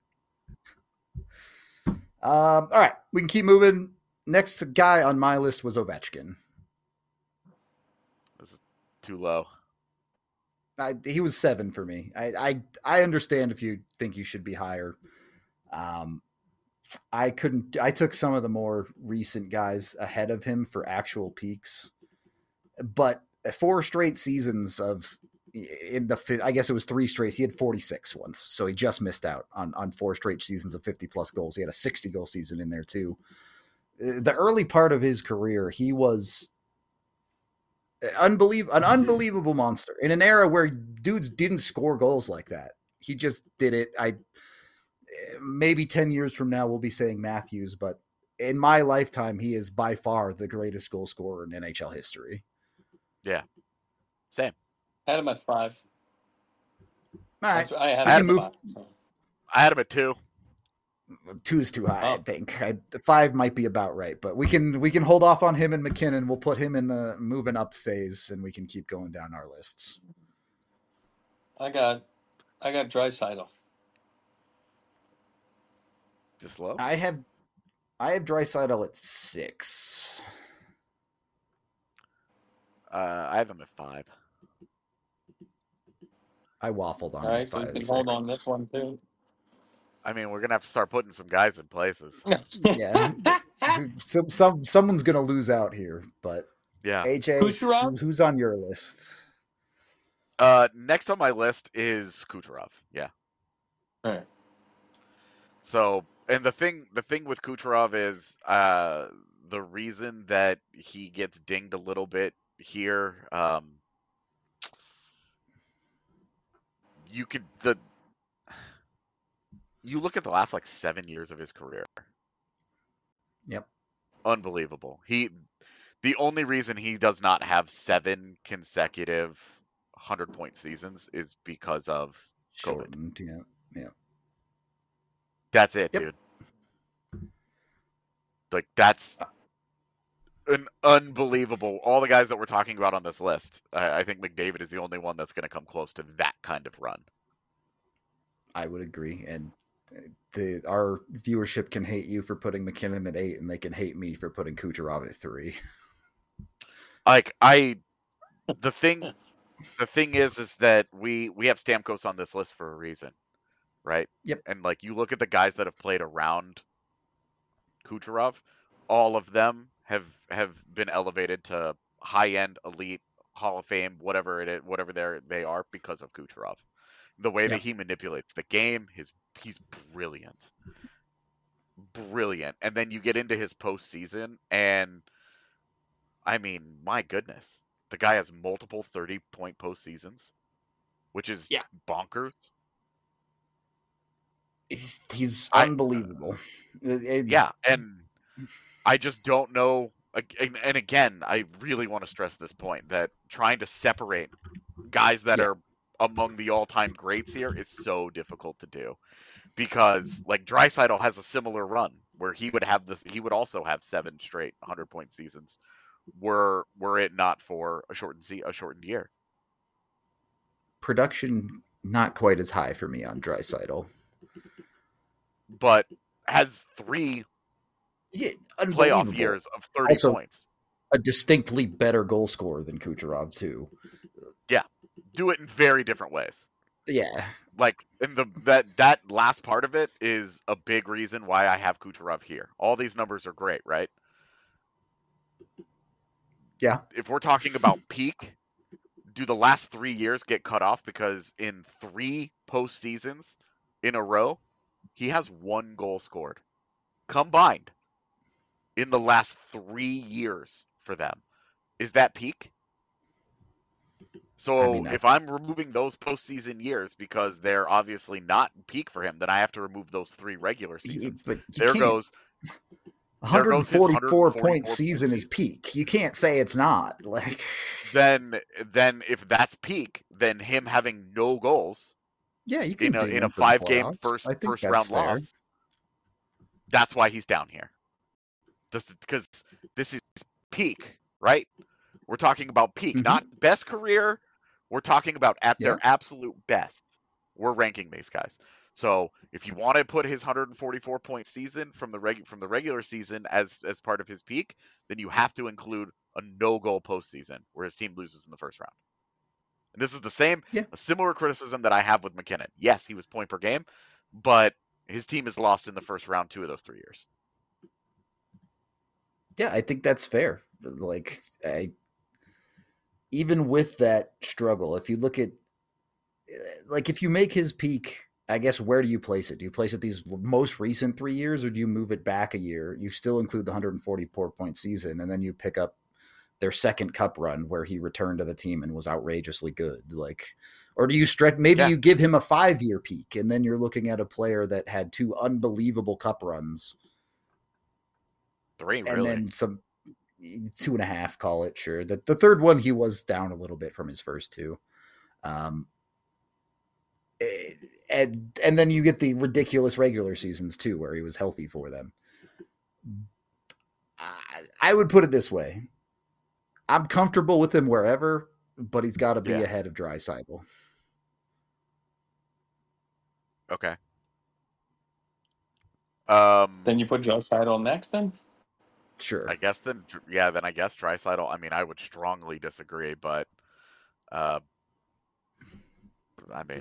Um, all right, we can keep moving. Next guy on my list was Ovechkin. This is too low. I, he was seven for me. I, I I understand if you think you should be higher. Um, I couldn't. I took some of the more recent guys ahead of him for actual peaks, but four straight seasons of in the I guess it was three straight. He had forty-six once, so he just missed out on on four straight seasons of fifty plus goals. He had a sixty goal season in there too. The early part of his career, he was unbelievable, an unbelievable monster in an era where dudes didn't score goals like that. He just did it. I maybe ten years from now we'll be saying Matthews, but in my lifetime, he is by far the greatest goal scorer in N H L history. Yeah, same. I had him at five. All right, I had I had him him at five. So. I had him at two. Two is too high, Oh. I think. I, five might be about right, but we can we can hold off on him and McKinnon. We'll put him in the moving up phase, and we can keep going down our lists. I got, I got Draisaitl. Just low. I have I have Draisaitl at six. Uh, I have him at five. I waffled on All right, it. so you Five can and hold six. on this one too. I mean, we're gonna have to start putting some guys in places. Yeah, some some someone's gonna lose out here, but Yeah. A J, Kucherov? who's on your list? Uh, next on my list is Kucherov. Yeah. All right. So, and the thing, the thing with Kucherov is, uh, the reason that he gets dinged a little bit here, um, you could the, you look at the last like seven years of his career. Yep. Unbelievable. He, the only reason he does not have seven consecutive hundred point seasons is because of COVID. Shortened. Yeah. Yeah. That's it, Yep. dude. Like that's an unbelievable. All the guys that we're talking about on this list, I, I think McDavid is the only one that's going to come close to that kind of run. I would agree, and the our viewership can hate you for putting McKinnon at eight, and they can hate me for putting Kucherov at three. Like I, the thing, the thing is, is that we we have Stamkos on this list for a reason, right? Yep. And like you look at the guys that have played around Kucherov, all of them have have been elevated to high end, elite, Hall of Fame, whatever it is, whatever they they are because of Kucherov. The way Yeah. that he manipulates the game, his he's brilliant, brilliant. And then you get into his postseason, and I mean, my goodness, the guy has multiple thirty point postseasons, which is Yeah. bonkers. He's, he's I- unbelievable. It- Yeah, and I just don't know. And, and again, I really want to stress this point that trying to separate guys that Yeah. are among the all-time greats here is so difficult to do, because like Draisaitl has a similar run where he would have this. He would also have seven straight hundred-point seasons, were were it not for a shortened se- a shortened year. Production not quite as high for me on Draisaitl. But has three Yeah, playoff unbelievable. years of thirty Also- points. A distinctly better goal scorer than Kucherov too. Do it in very different ways. Yeah, Like in the that that last part of it is a big reason why I have Kucherov here. All these numbers are great, right? Yeah. If we're talking about peak, do the last three years get cut off because in three postseasons in a row, he has one goal scored combined in the last three years for them. Is that peak? So I mean, I, if I'm removing those postseason years because they're obviously not peak for him, then I have to remove those three regular he, seasons. but you There can't. goes there goes his one forty-four point one forty-four point season is season. peak. You can't say it's not. Like Then then if that's peak, then him having no goals yeah, you can in a ding in a him for the five game playoffs. first I think first that's round fair. loss, that's why he's down here. Because this is peak, right? We're talking about peak, Mhm. not best career. We're talking about at Yeah. their absolute best. We're ranking these guys. So if you want to put his one forty-four point season from the reg- from the regular season as as part of his peak, then you have to include a no goal postseason where his team loses in the first round. And this is the same, Yeah. a similar criticism that I have with MacKinnon. Yes, he was point per game, but his team has lost in the first round two of those three years. Yeah, I think that's fair. Like, I, even with that struggle, if you look at, like, if you make his peak, I guess, where do you place it? Do you place it these most recent three years, or do you move it back a year? You still include the one forty-four point season, and then you pick up their second cup run where he returned to the team and was outrageously good. Like, or do you stretch? Maybe Yeah. you give him a five year peak, and then you're looking at a player that had two unbelievable cup runs, Three, and really. then some two and a half. Call it sure. The the third one he was down a little bit from his first two. Um, and and then you get the ridiculous regular seasons too, where he was healthy for them. I, I would put it this way: I'm comfortable with him wherever, but he's got to be Yeah. ahead of Draisaitl. Okay. Um, Then you put Draisaitl next, then? Sure. I guess then, yeah, then I guess Draisaitl. I mean, I would strongly disagree, but, uh, I mean,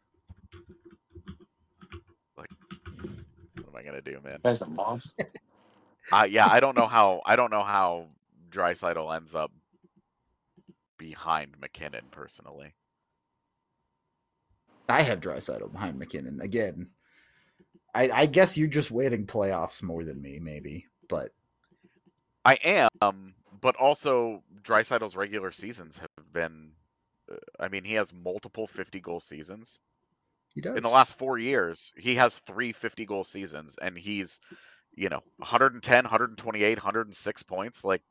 like, what am I gonna do, man? That's a monster. Uh, yeah, I don't know how. I don't know how Draisaitl ends up behind MacKinnon personally. I have Draisaitl behind MacKinnon again. I, I guess you're just waiting playoffs more than me, maybe, but I am, but also Draisaitl's regular seasons have been. Uh, I mean, he has multiple fifty goal seasons. he does. In the last four years, he has three fifty goal seasons, and he's, you know, one ten, one twenty-eight, one oh six points. Like,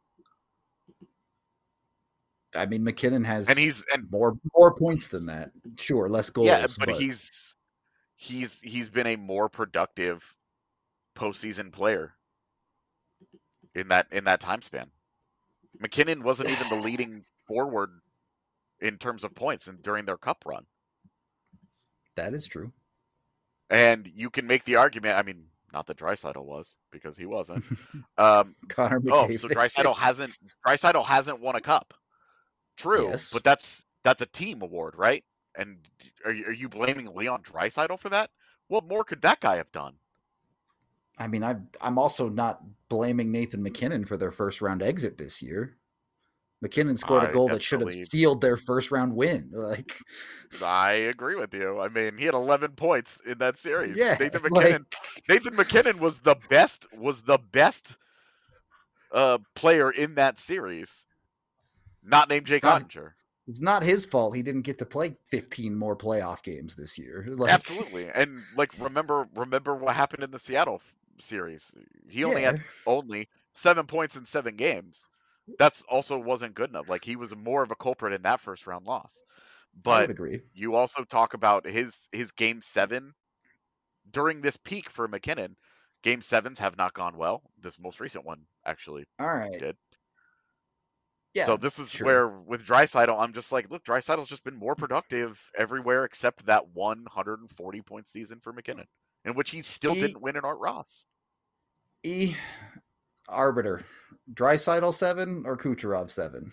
I mean, MacKinnon has and he's and more more points than that. Sure, less goals. yeah, but, but he's he's he's been a more productive postseason player in that in that time span. MacKinnon wasn't even the leading forward in terms of points and during their cup run. That is true. And you can make the argument. I mean, not that Draisaitl was, because he wasn't. Um, Connor oh, McDavid. so Draisaitl hasn't Draisaitl hasn't won a cup. True, Yes. but that's that's a team award, right? And are you, are you blaming Leon Draisaitl for that? What more could that guy have done? I mean, I, I'm also not blaming Nathan MacKinnon for their first round exit this year. MacKinnon scored I a goal that should have definitely- sealed their first round win. Like, I agree with you. I mean, he had eleven points in that series. yeah, Nathan MacKinnon. like, Nathan MacKinnon was the best. Was the best uh, player in that series. Not named Jake It's not- Ottinger. it's not his fault he didn't get to play fifteen more playoff games this year. Like, Absolutely, and like remember, remember what happened in the Seattle f- series. He only Yeah. had only seven points in seven games. That's also wasn't good enough. Like he was more of a culprit in that first round loss. I But would agree. you also talk about his his game seven during this peak for MacKinnon. Game sevens have not gone well. This most recent one actually All right. did. Yeah. So this is sure. where with Draisaitl, I'm just like, look, Draisaitl's just been more productive everywhere except that one forty point season for MacKinnon, in which he still He- didn't win an Art Ross. E arbiter. Draisaitl seven or Kucherov seven?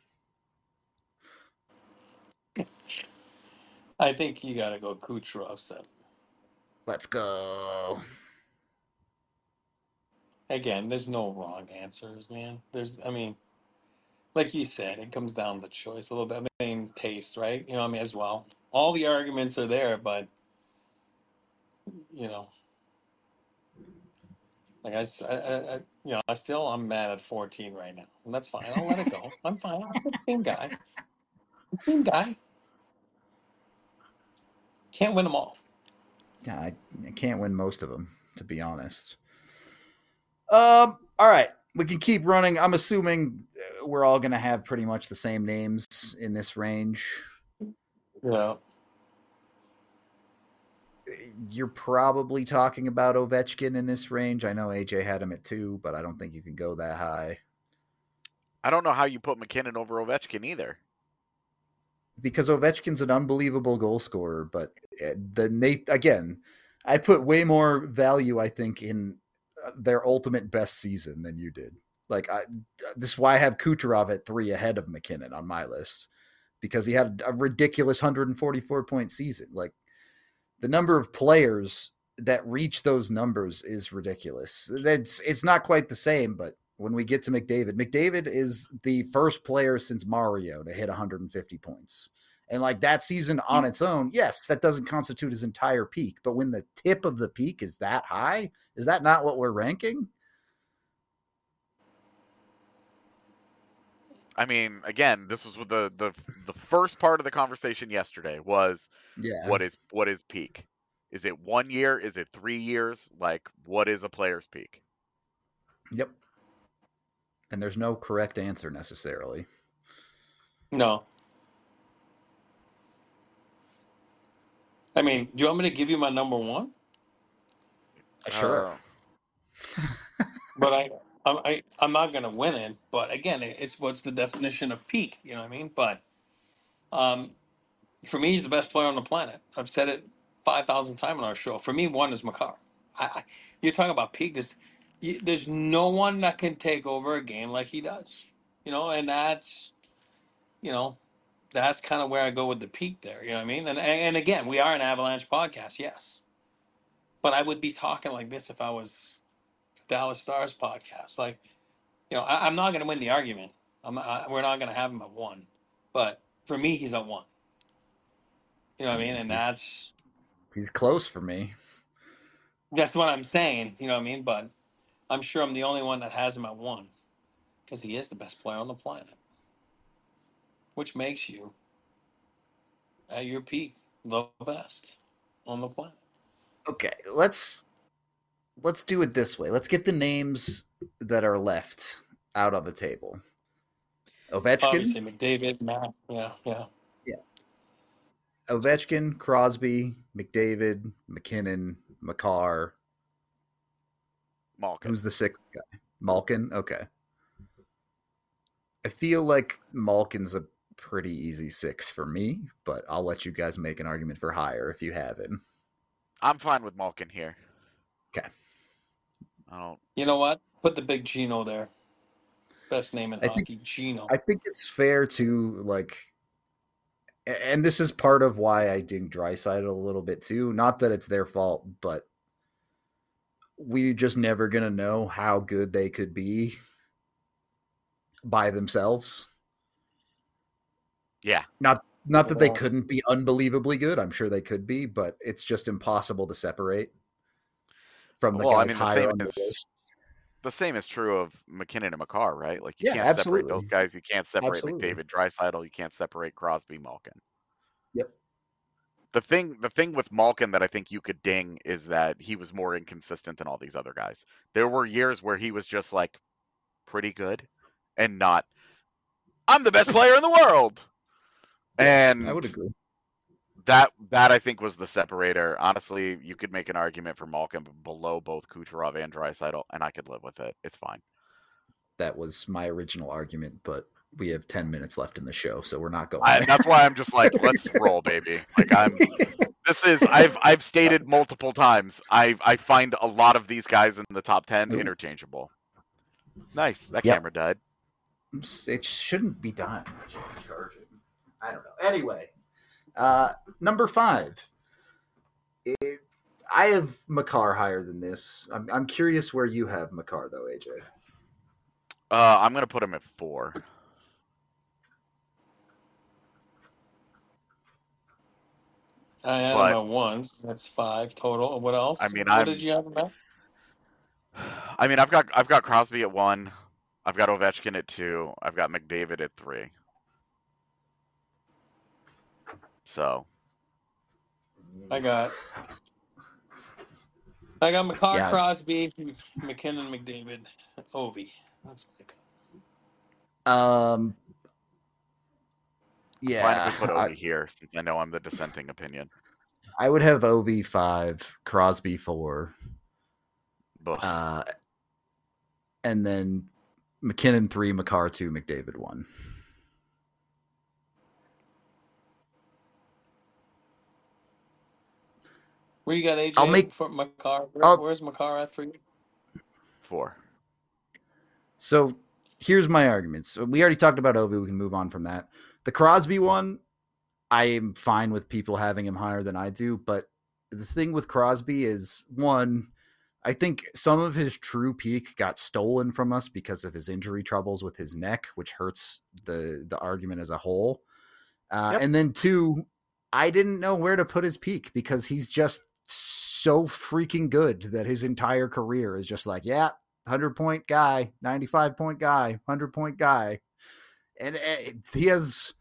I think you got to go Kucherov seven. Let's go. Again, there's no wrong answers, man. There's, I mean, like you said, it comes down to choice a little bit. I mean, taste, right? You know, I mean, as well. All the arguments are there, but you know, like I, s- I- I- I- you know, I still I'm mad at fourteen right now, and that's fine. I'll let it go. I'm fine. I'm a fifteen guy. Team guy. Can't win them all. Yeah, I, I can't win most of them, to be honest. Um. All right, we can keep running. I'm assuming uh, we're all going to have pretty much the same names in this range. Yeah. You're probably talking about Ovechkin in this range. I know A J had him at two, but I don't think you can go that high. I don't know how you put McKinnon over Ovechkin either. Because Ovechkin's an unbelievable goal scorer, but uh, the Nate again, I put way more value, I think, in uh, their ultimate best season than you did. Like, I, this is why I have Kucherov at three ahead of McKinnon on my list, because he had a ridiculous one hundred forty-four point season. Like, the number of players that reach those numbers is ridiculous. That's it's not quite the same, but when we get to McDavid, McDavid is the first player since Mario to hit one hundred fifty points. And like that season on its own, yes, that doesn't constitute his entire peak. But when the tip of the peak is that high, is that not what we're ranking? I mean, again, this was with the the the first part of the conversation yesterday was Yeah. what is what is peak? Is it one year? Is it three years? Like, what is a player's peak? Yep. And there's no correct answer necessarily. No. I mean, do you want me to give you my number one? Sure. Uh, But I, I, I I'm not gonna win it. But again, it- it's what's the definition of peak? You know what I mean? But um, for me, he's the best player on the planet. I've said it five thousand times on our show. For me, one is Makar. I, I you're talking about peak. There's, you, there's no one that can take over a game like he does. You know, and that's, you know, that's kind of where I go with the peak there. You know what I mean? And and again, we are an Avalanche podcast, yes. But I would be talking like this if I was Dallas Stars podcast. Like, you know, I, I'm not going to win the argument. I'm I, we're not going to have him at one. But for me, he's at one. You know what I mean? And he's, that's he's close for me. that's what I'm saying. You know what I mean? But I'm sure I'm the only one that has him at one because he is the best player on the planet, which makes you at your peak the best on the planet. Okay, let's let's do it this way. Let's get the names that are left out on the table. Ovechkin, Obviously, McDavid, Matt, yeah, yeah, yeah. Ovechkin, Crosby, McDavid, McKinnon, Makar. Malkin. Who's the sixth guy? Malkin. Okay. I feel like Malkin's a pretty easy six for me, but I'll let you guys make an argument for higher if you have him. I'm fine with Malkin here. Okay. I don't. You know what? Put the big Gino there. Best name in I hockey, think, Gino. I think it's fair to like, and this is part of why I ding Draisaitl a little bit too. Not that it's their fault, but we're just never gonna know how good they could be by themselves. Yeah. Not not that they couldn't be unbelievably good. I'm sure they could be, but it's just impossible to separate from the well, guys I mean, the higher same on the is list. the same is true of McKinnon and Makar, right? Like you Yeah, can't absolutely. separate those guys. You can't separate Absolutely. McDavid, Draisaitl. You can't separate Crosby, Malkin. Yep. The thing, the thing with Malkin that I think you could ding is that he was more inconsistent than all these other guys. There were years where he was just like pretty good, and not, I'm the best player in the world. Yeah, and I would agree. That that I think was the separator. Honestly, you could make an argument for Malkin below both Kucherov and Draisaitl, and I could live with it. It's fine. That was my original argument, but we have ten minutes left in the show, so we're not going I, there. that's why I'm just like, let's roll, baby. Like I'm. This is I've I've stated multiple times. I I find a lot of these guys in the top ten Ooh. interchangeable. Nice. That Yep. camera died. It shouldn't be done. It should be charging. I don't know. Anyway, uh, number five. It, I have Makar higher than this. I'm I'm curious where you have Makar though, A J. Uh, I'm gonna put him at four. I had But- him at once. That's five total. What else? I mean, what I'm- did you have him at? I mean, I've got I've got Crosby at one. I've got Ovechkin at two. I've got McDavid at three. So I got I got McCarr, Yeah. Crosby, McKinnon, McDavid, Ovi. That's what I got. Um. I'm fine if Yeah, we put I, Ovi here, since I know I'm the dissenting opinion. I would have O V five, Crosby four, Ugh. uh, and then McKinnon three, McCarr two, McDavid one. Where you got A J I'll make- for McCarr? Where, I'll- where's McCarr at for you? Four. So here's my arguments. So we already talked about Ovi. We can move on from that. The Crosby one, I am fine with people having him higher than I do. But the thing with Crosby is, one, I think some of his true peak got stolen from us because of his injury troubles with his neck, which hurts the, the argument as a whole. Uh, Yep. And then two, I didn't know where to put his peak because he's just so freaking good that his entire career is just like, yeah, one hundred point guy, ninety-five point guy, one hundred point guy. And uh, he has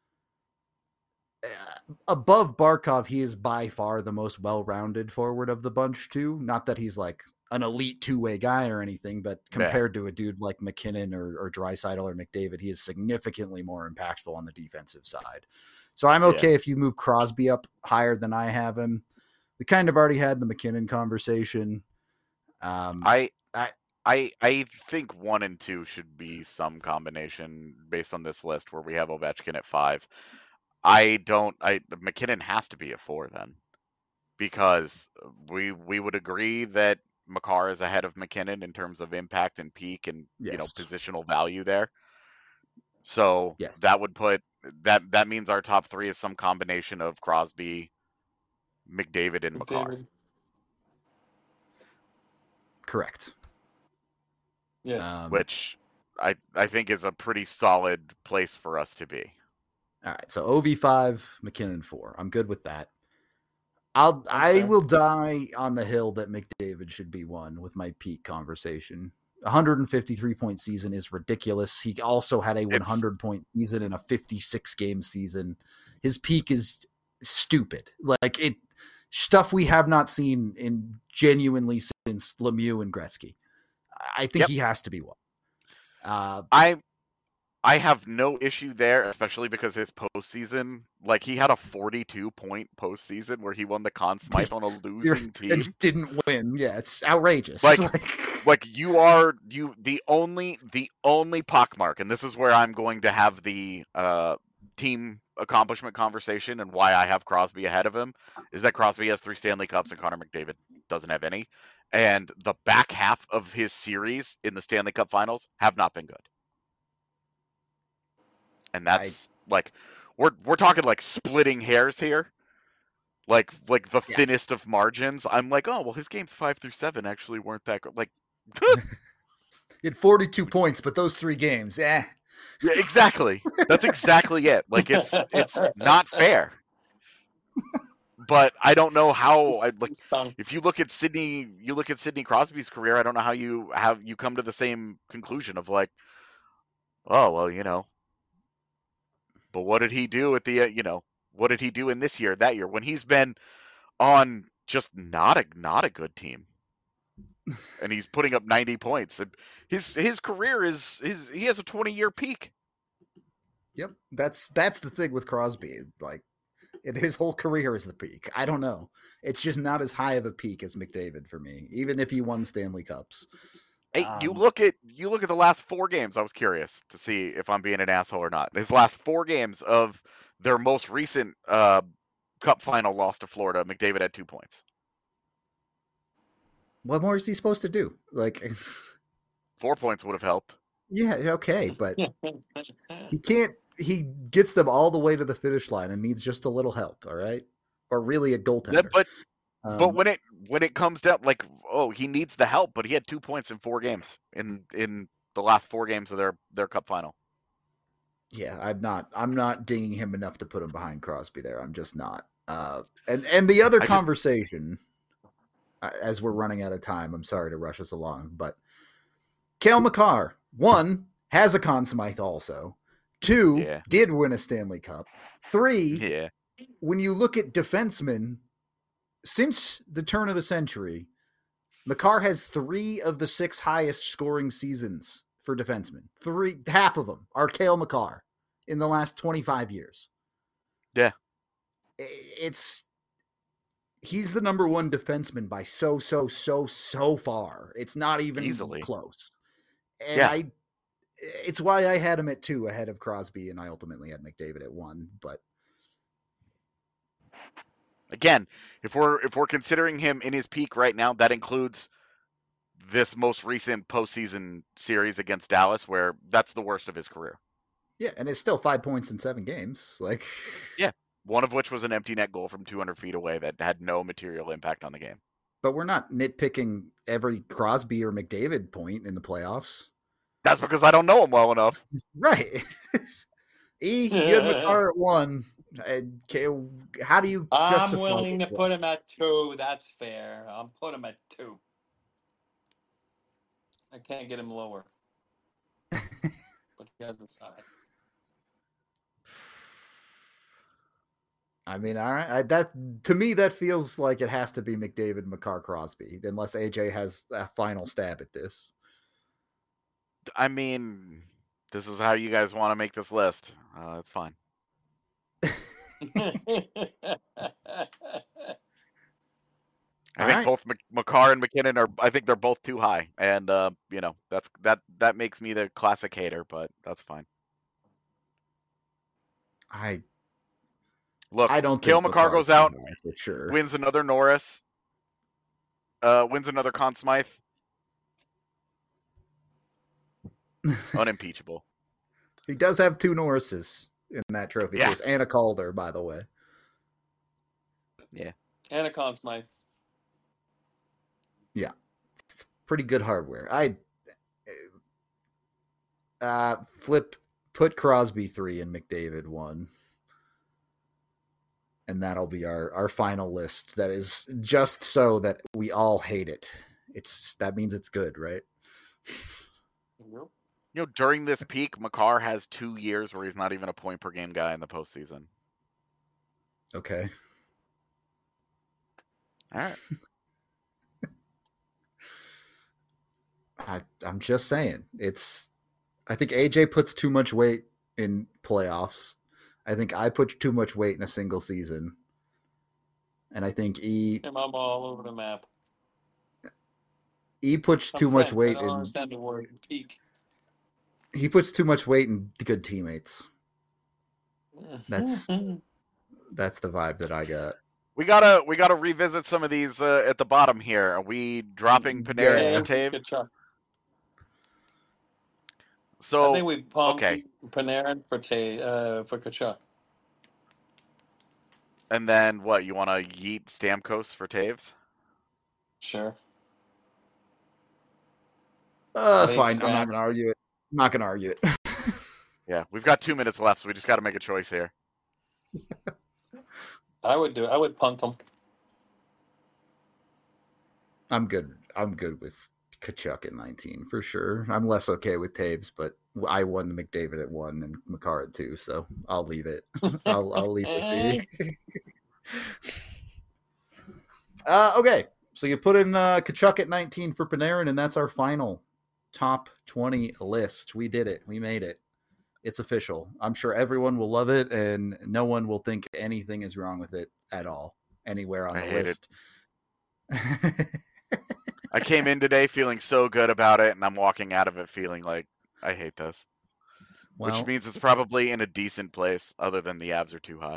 uh, above Barkov, he is by far the most well-rounded forward of the bunch too. Not that he's like an elite two-way guy or anything, but compared yeah. to a dude like McKinnon or, or Draisaitl or McDavid, he is significantly more impactful on the defensive side. So I'm okay yeah. if you move Crosby up higher than I have him. We kind of already had the McKinnon conversation. Um, I, I, I, I think one and two should be some combination based on this list where we have Ovechkin at five. I don't. I McKinnon has to be at four then, because we we would agree that McCarr is ahead of McKinnon in terms of impact and peak and yes. you know positional value there. So yes. that would put that that means our top three is some combination of Crosby, McDavid, and McCarr. McDavid. Correct. Yes. Um, Which I I think is a pretty solid place for us to be. All right, so O V five, McKinnon four. I'm good with that. I'll That's I fair. will die on the hill that McDavid should be one with my peak conversation. one hundred fifty-three point season is ridiculous. He also had a one hundred point season in a fifty-six game season. His peak is stupid. Like it stuff we have not seen in genuinely since Lemieux and Gretzky. I think yep. he has to be one. Uh, I I have no issue there, especially because his postseason, like he had a forty-two point postseason where he won the Conn Smythe on a losing team and didn't win. Yeah, it's outrageous. Like, like you are you the only the only pockmark, and this is where I'm going to have the uh, team accomplishment conversation and why I have Crosby ahead of him is that Crosby has three Stanley Cups and Connor McDavid doesn't have any, and the back half of his series in the Stanley Cup Finals have not been good. And that's I, like, we're we're talking like splitting hairs here, like like the yeah. thinnest of margins. I'm like, oh well, his games five through seven actually weren't that good. Like, he had forty-two points, but those three games, eh? Yeah, exactly. That's exactly it. Like it's it's not fair. But I don't know how. I, like, if you look at Sidney, you look at Sidney Crosby's career. I don't know how you have you come to the same conclusion of like, oh well, you know. But what did he do at the, uh, you know, what did he do in this year, that year, when he's been on just not a not a good team, and he's putting up ninety points. His his career is his he has a twenty year peak. Yep, that's that's the thing with Crosby. Like, it, his whole career is the peak. I don't know. It's just not as high of a peak as McDavid for me, even if he won Stanley Cups. Hey, um, you look at you look at the last four games. I was curious to see if I'm being an asshole or not. His last four games of their most recent uh, Cup final loss to Florida, McDavid had two points. What more is he supposed to do? Like, four points would have helped. Yeah, okay, but he can't. He gets them all the way to the finish line and needs just a little help. All right, or really a goaltender. Yeah, but. Um, but when it when it comes down, like, oh, he needs the help, but he had two points in four games in in the last four games of their their Cup final. Yeah, I'm not I'm not dinging him enough to put him behind Crosby there. I'm just not. Uh, and and the other I conversation, just, as we're running out of time, I'm sorry to rush us along, but Cale Makar, one, has a Conn Smythe also. Two, yeah. did win a Stanley Cup. Three, yeah. when you look at defensemen, since the turn of the century, Makar has three of the six highest scoring seasons for defensemen. Three, half of them are Cale Makar in the last twenty-five years. Yeah. It's, he's the number one defenseman by so, so, so, so far. It's not even Easily. close. And Yeah. I, it's why I had him at two ahead of Crosby, and I ultimately had McDavid at one, but again, if we're if we're considering him in his peak right now, that includes this most recent postseason series against Dallas, where that's the worst of his career. Yeah, and it's still five points in seven games. Like, yeah, one of which was an empty net goal from two hundred feet away that had no material impact on the game. But we're not nitpicking every Crosby or McDavid point in the playoffs. That's because I don't know him well enough. Right. E, you had Makar at one. How do you I'm willing to put him at two. That's fair. I'm putting him at two. I can't get him lower. But you guys decide. I mean, all right. I, that to me, that feels like it has to be McDavid, Makar, Crosby, unless A J has a final stab at this. I mean, this is how you guys want to make this list. Uh, it's fine. I All think right. both Makar and McKinnon are. I think they're both too high, and uh, you know that's that that makes me the classic hater, but that's fine. I look. I don't. Cale Makar goes out, for sure. Wins another Norris. Uh, wins another Conn Smythe. Unimpeachable. He does have two Norrises in that trophy yeah. case, and a Calder, by the way. Yeah, and a Conn Smythe. Yeah, it's pretty good hardware. I uh, flipped, put Crosby three and McDavid one, and that'll be our our final list. That is just so that we all hate it. It's that means it's good, right? You know, during this peak, Makar has two years where he's not even a point per game guy in the postseason. Okay. All right. I, I'm just saying. It's. I think A J puts too much weight in playoffs. I think I put too much weight in a single season. And I think E. I'm all over the map. E puts too I'm much French. weight I don't in. understand the word peak. He puts too much weight in good teammates. That's that's the vibe that I got. We gotta we gotta revisit some of these uh, at the bottom here. Are we dropping Panarin Yeah. and Tave? Good job. So I think we pumped okay, Panarin for Tay uh, for Tkachuk. and then what? You want to yeet Stamkos for Taves? Sure. Uh, Base fine. I'm not draft. gonna argue it. I'm not gonna argue it. Yeah, we've got two minutes left, so we just got to make a choice here. I would do. I would punt him. I'm good. I'm good with Tkachuk at nineteen for sure. I'm less okay with Taves, but I won McDavid at one and Makar at two, so I'll leave it. I'll, I'll leave it be. uh, okay, so you put in uh, Tkachuk at nineteen for Panarin, and that's our final top twenty list. We did it. We made it. It's official. I'm sure everyone will love it, and no one will think anything is wrong with it at all anywhere on I the hate list. I came in today feeling so good about it, and I'm walking out of it feeling like I hate this. Well, Which means it's probably in a decent place, other than the Avs are too high.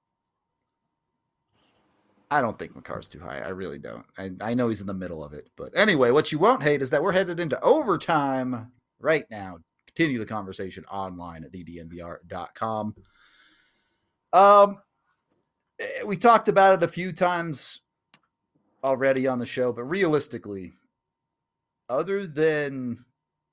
I don't think Makar's too high. I really don't. I, I know he's in the middle of it. But anyway, what you won't hate is that we're headed into overtime right now. Continue the conversation online at the d n v r dot com. Um, we talked about it a few times already on the show, but realistically, other than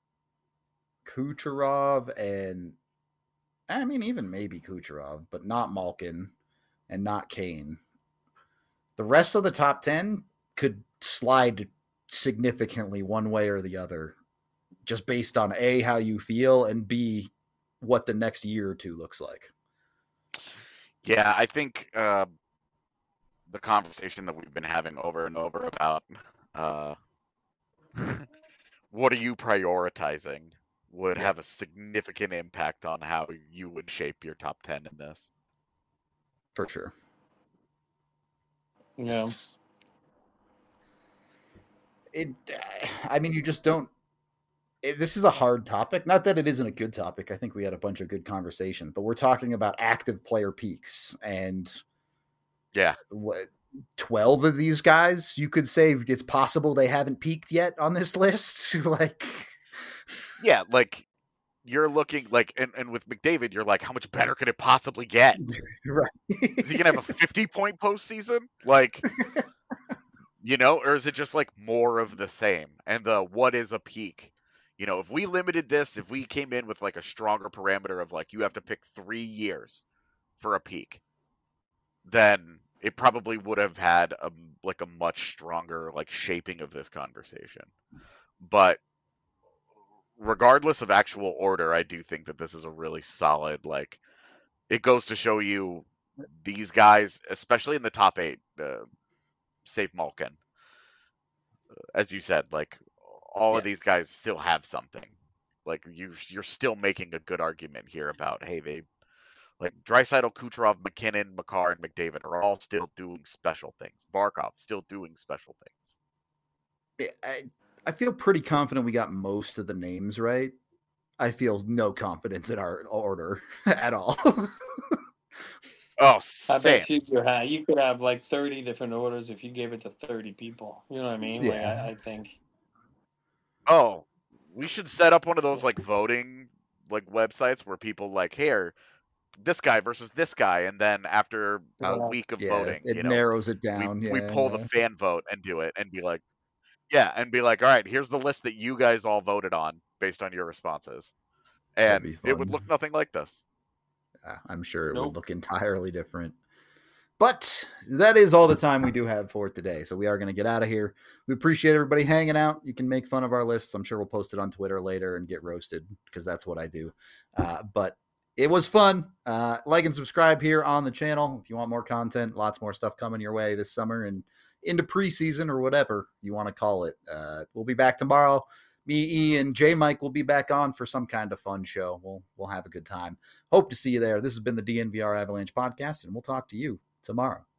Kucherov and, I mean, even maybe Kucherov, but not Malkin and not Kane, the rest of the top ten could slide significantly one way or the other, just based on A, how you feel, and B, what the next year or two looks like. Yeah, I think uh, the conversation that we've been having over and over about uh, what are you prioritizing would Yeah, have a significant impact on how you would shape your top ten in this. for sure. Yeah. It's, it. I mean, you just don't. It, this is a hard topic. Not that it isn't a good topic. I think we had a bunch of good conversation, but we're talking about active player peaks, and Yeah, what twelve of these guys you could say it's possible they haven't peaked yet on this list. Like, yeah, like you're looking like, and, and with McDavid, you're like, how much better could it possibly get? right? Is he gonna have a fifty point postseason? Like, you know, or is it just like more of the same? And the what is a peak? You know, if we limited this, if we came in with like a stronger parameter of like you have to pick three years for a peak, then it probably would have had a like a much stronger like shaping of this conversation. But regardless of actual order, I do think that this is a really solid like it goes to show you these guys, especially in the top eight, uh, save Malkin, as you said, like all Yeah, of these guys still have something. Like you, you're still making a good argument here about hey, they like Draisaitl, Kucherov, McKinnon, Makar, and McDavid are all still doing special things. Barkov still doing special things. I, I feel pretty confident we got most of the names right. I feel no confidence in our order at all. Oh, I same. bet you could have, you could have like thirty different orders if you gave it to thirty people. You know what I mean? Like, Yeah. I, I think. Oh, we should set up one of those like voting like websites where people like here this guy versus this guy, and then after a Yeah. week of Yeah, voting, it you know, narrows it we down. we Yeah, pull the yeah. fan vote and do it and be like, yeah, and be like, all right, here's the list that you guys all voted on based on your responses, That'd and be it would fun. look nothing like this. Yeah, I'm sure it would Nope. look entirely different. But that is all the time we do have for today. So we are going to get out of here. We appreciate everybody hanging out. You can make fun of our lists. I'm sure we'll post it on Twitter later and get roasted because that's what I do. Uh, but it was fun. Uh, like and subscribe here on the channel if you want more content. Lots more stuff coming your way this summer and into preseason or whatever you want to call it. Uh, we'll be back tomorrow. Me, E, and J Mike will be back on for some kind of fun show. We'll we'll have a good time. Hope to see you there. This has been the D N V R Avalanche podcast, and we'll talk to you tomorrow.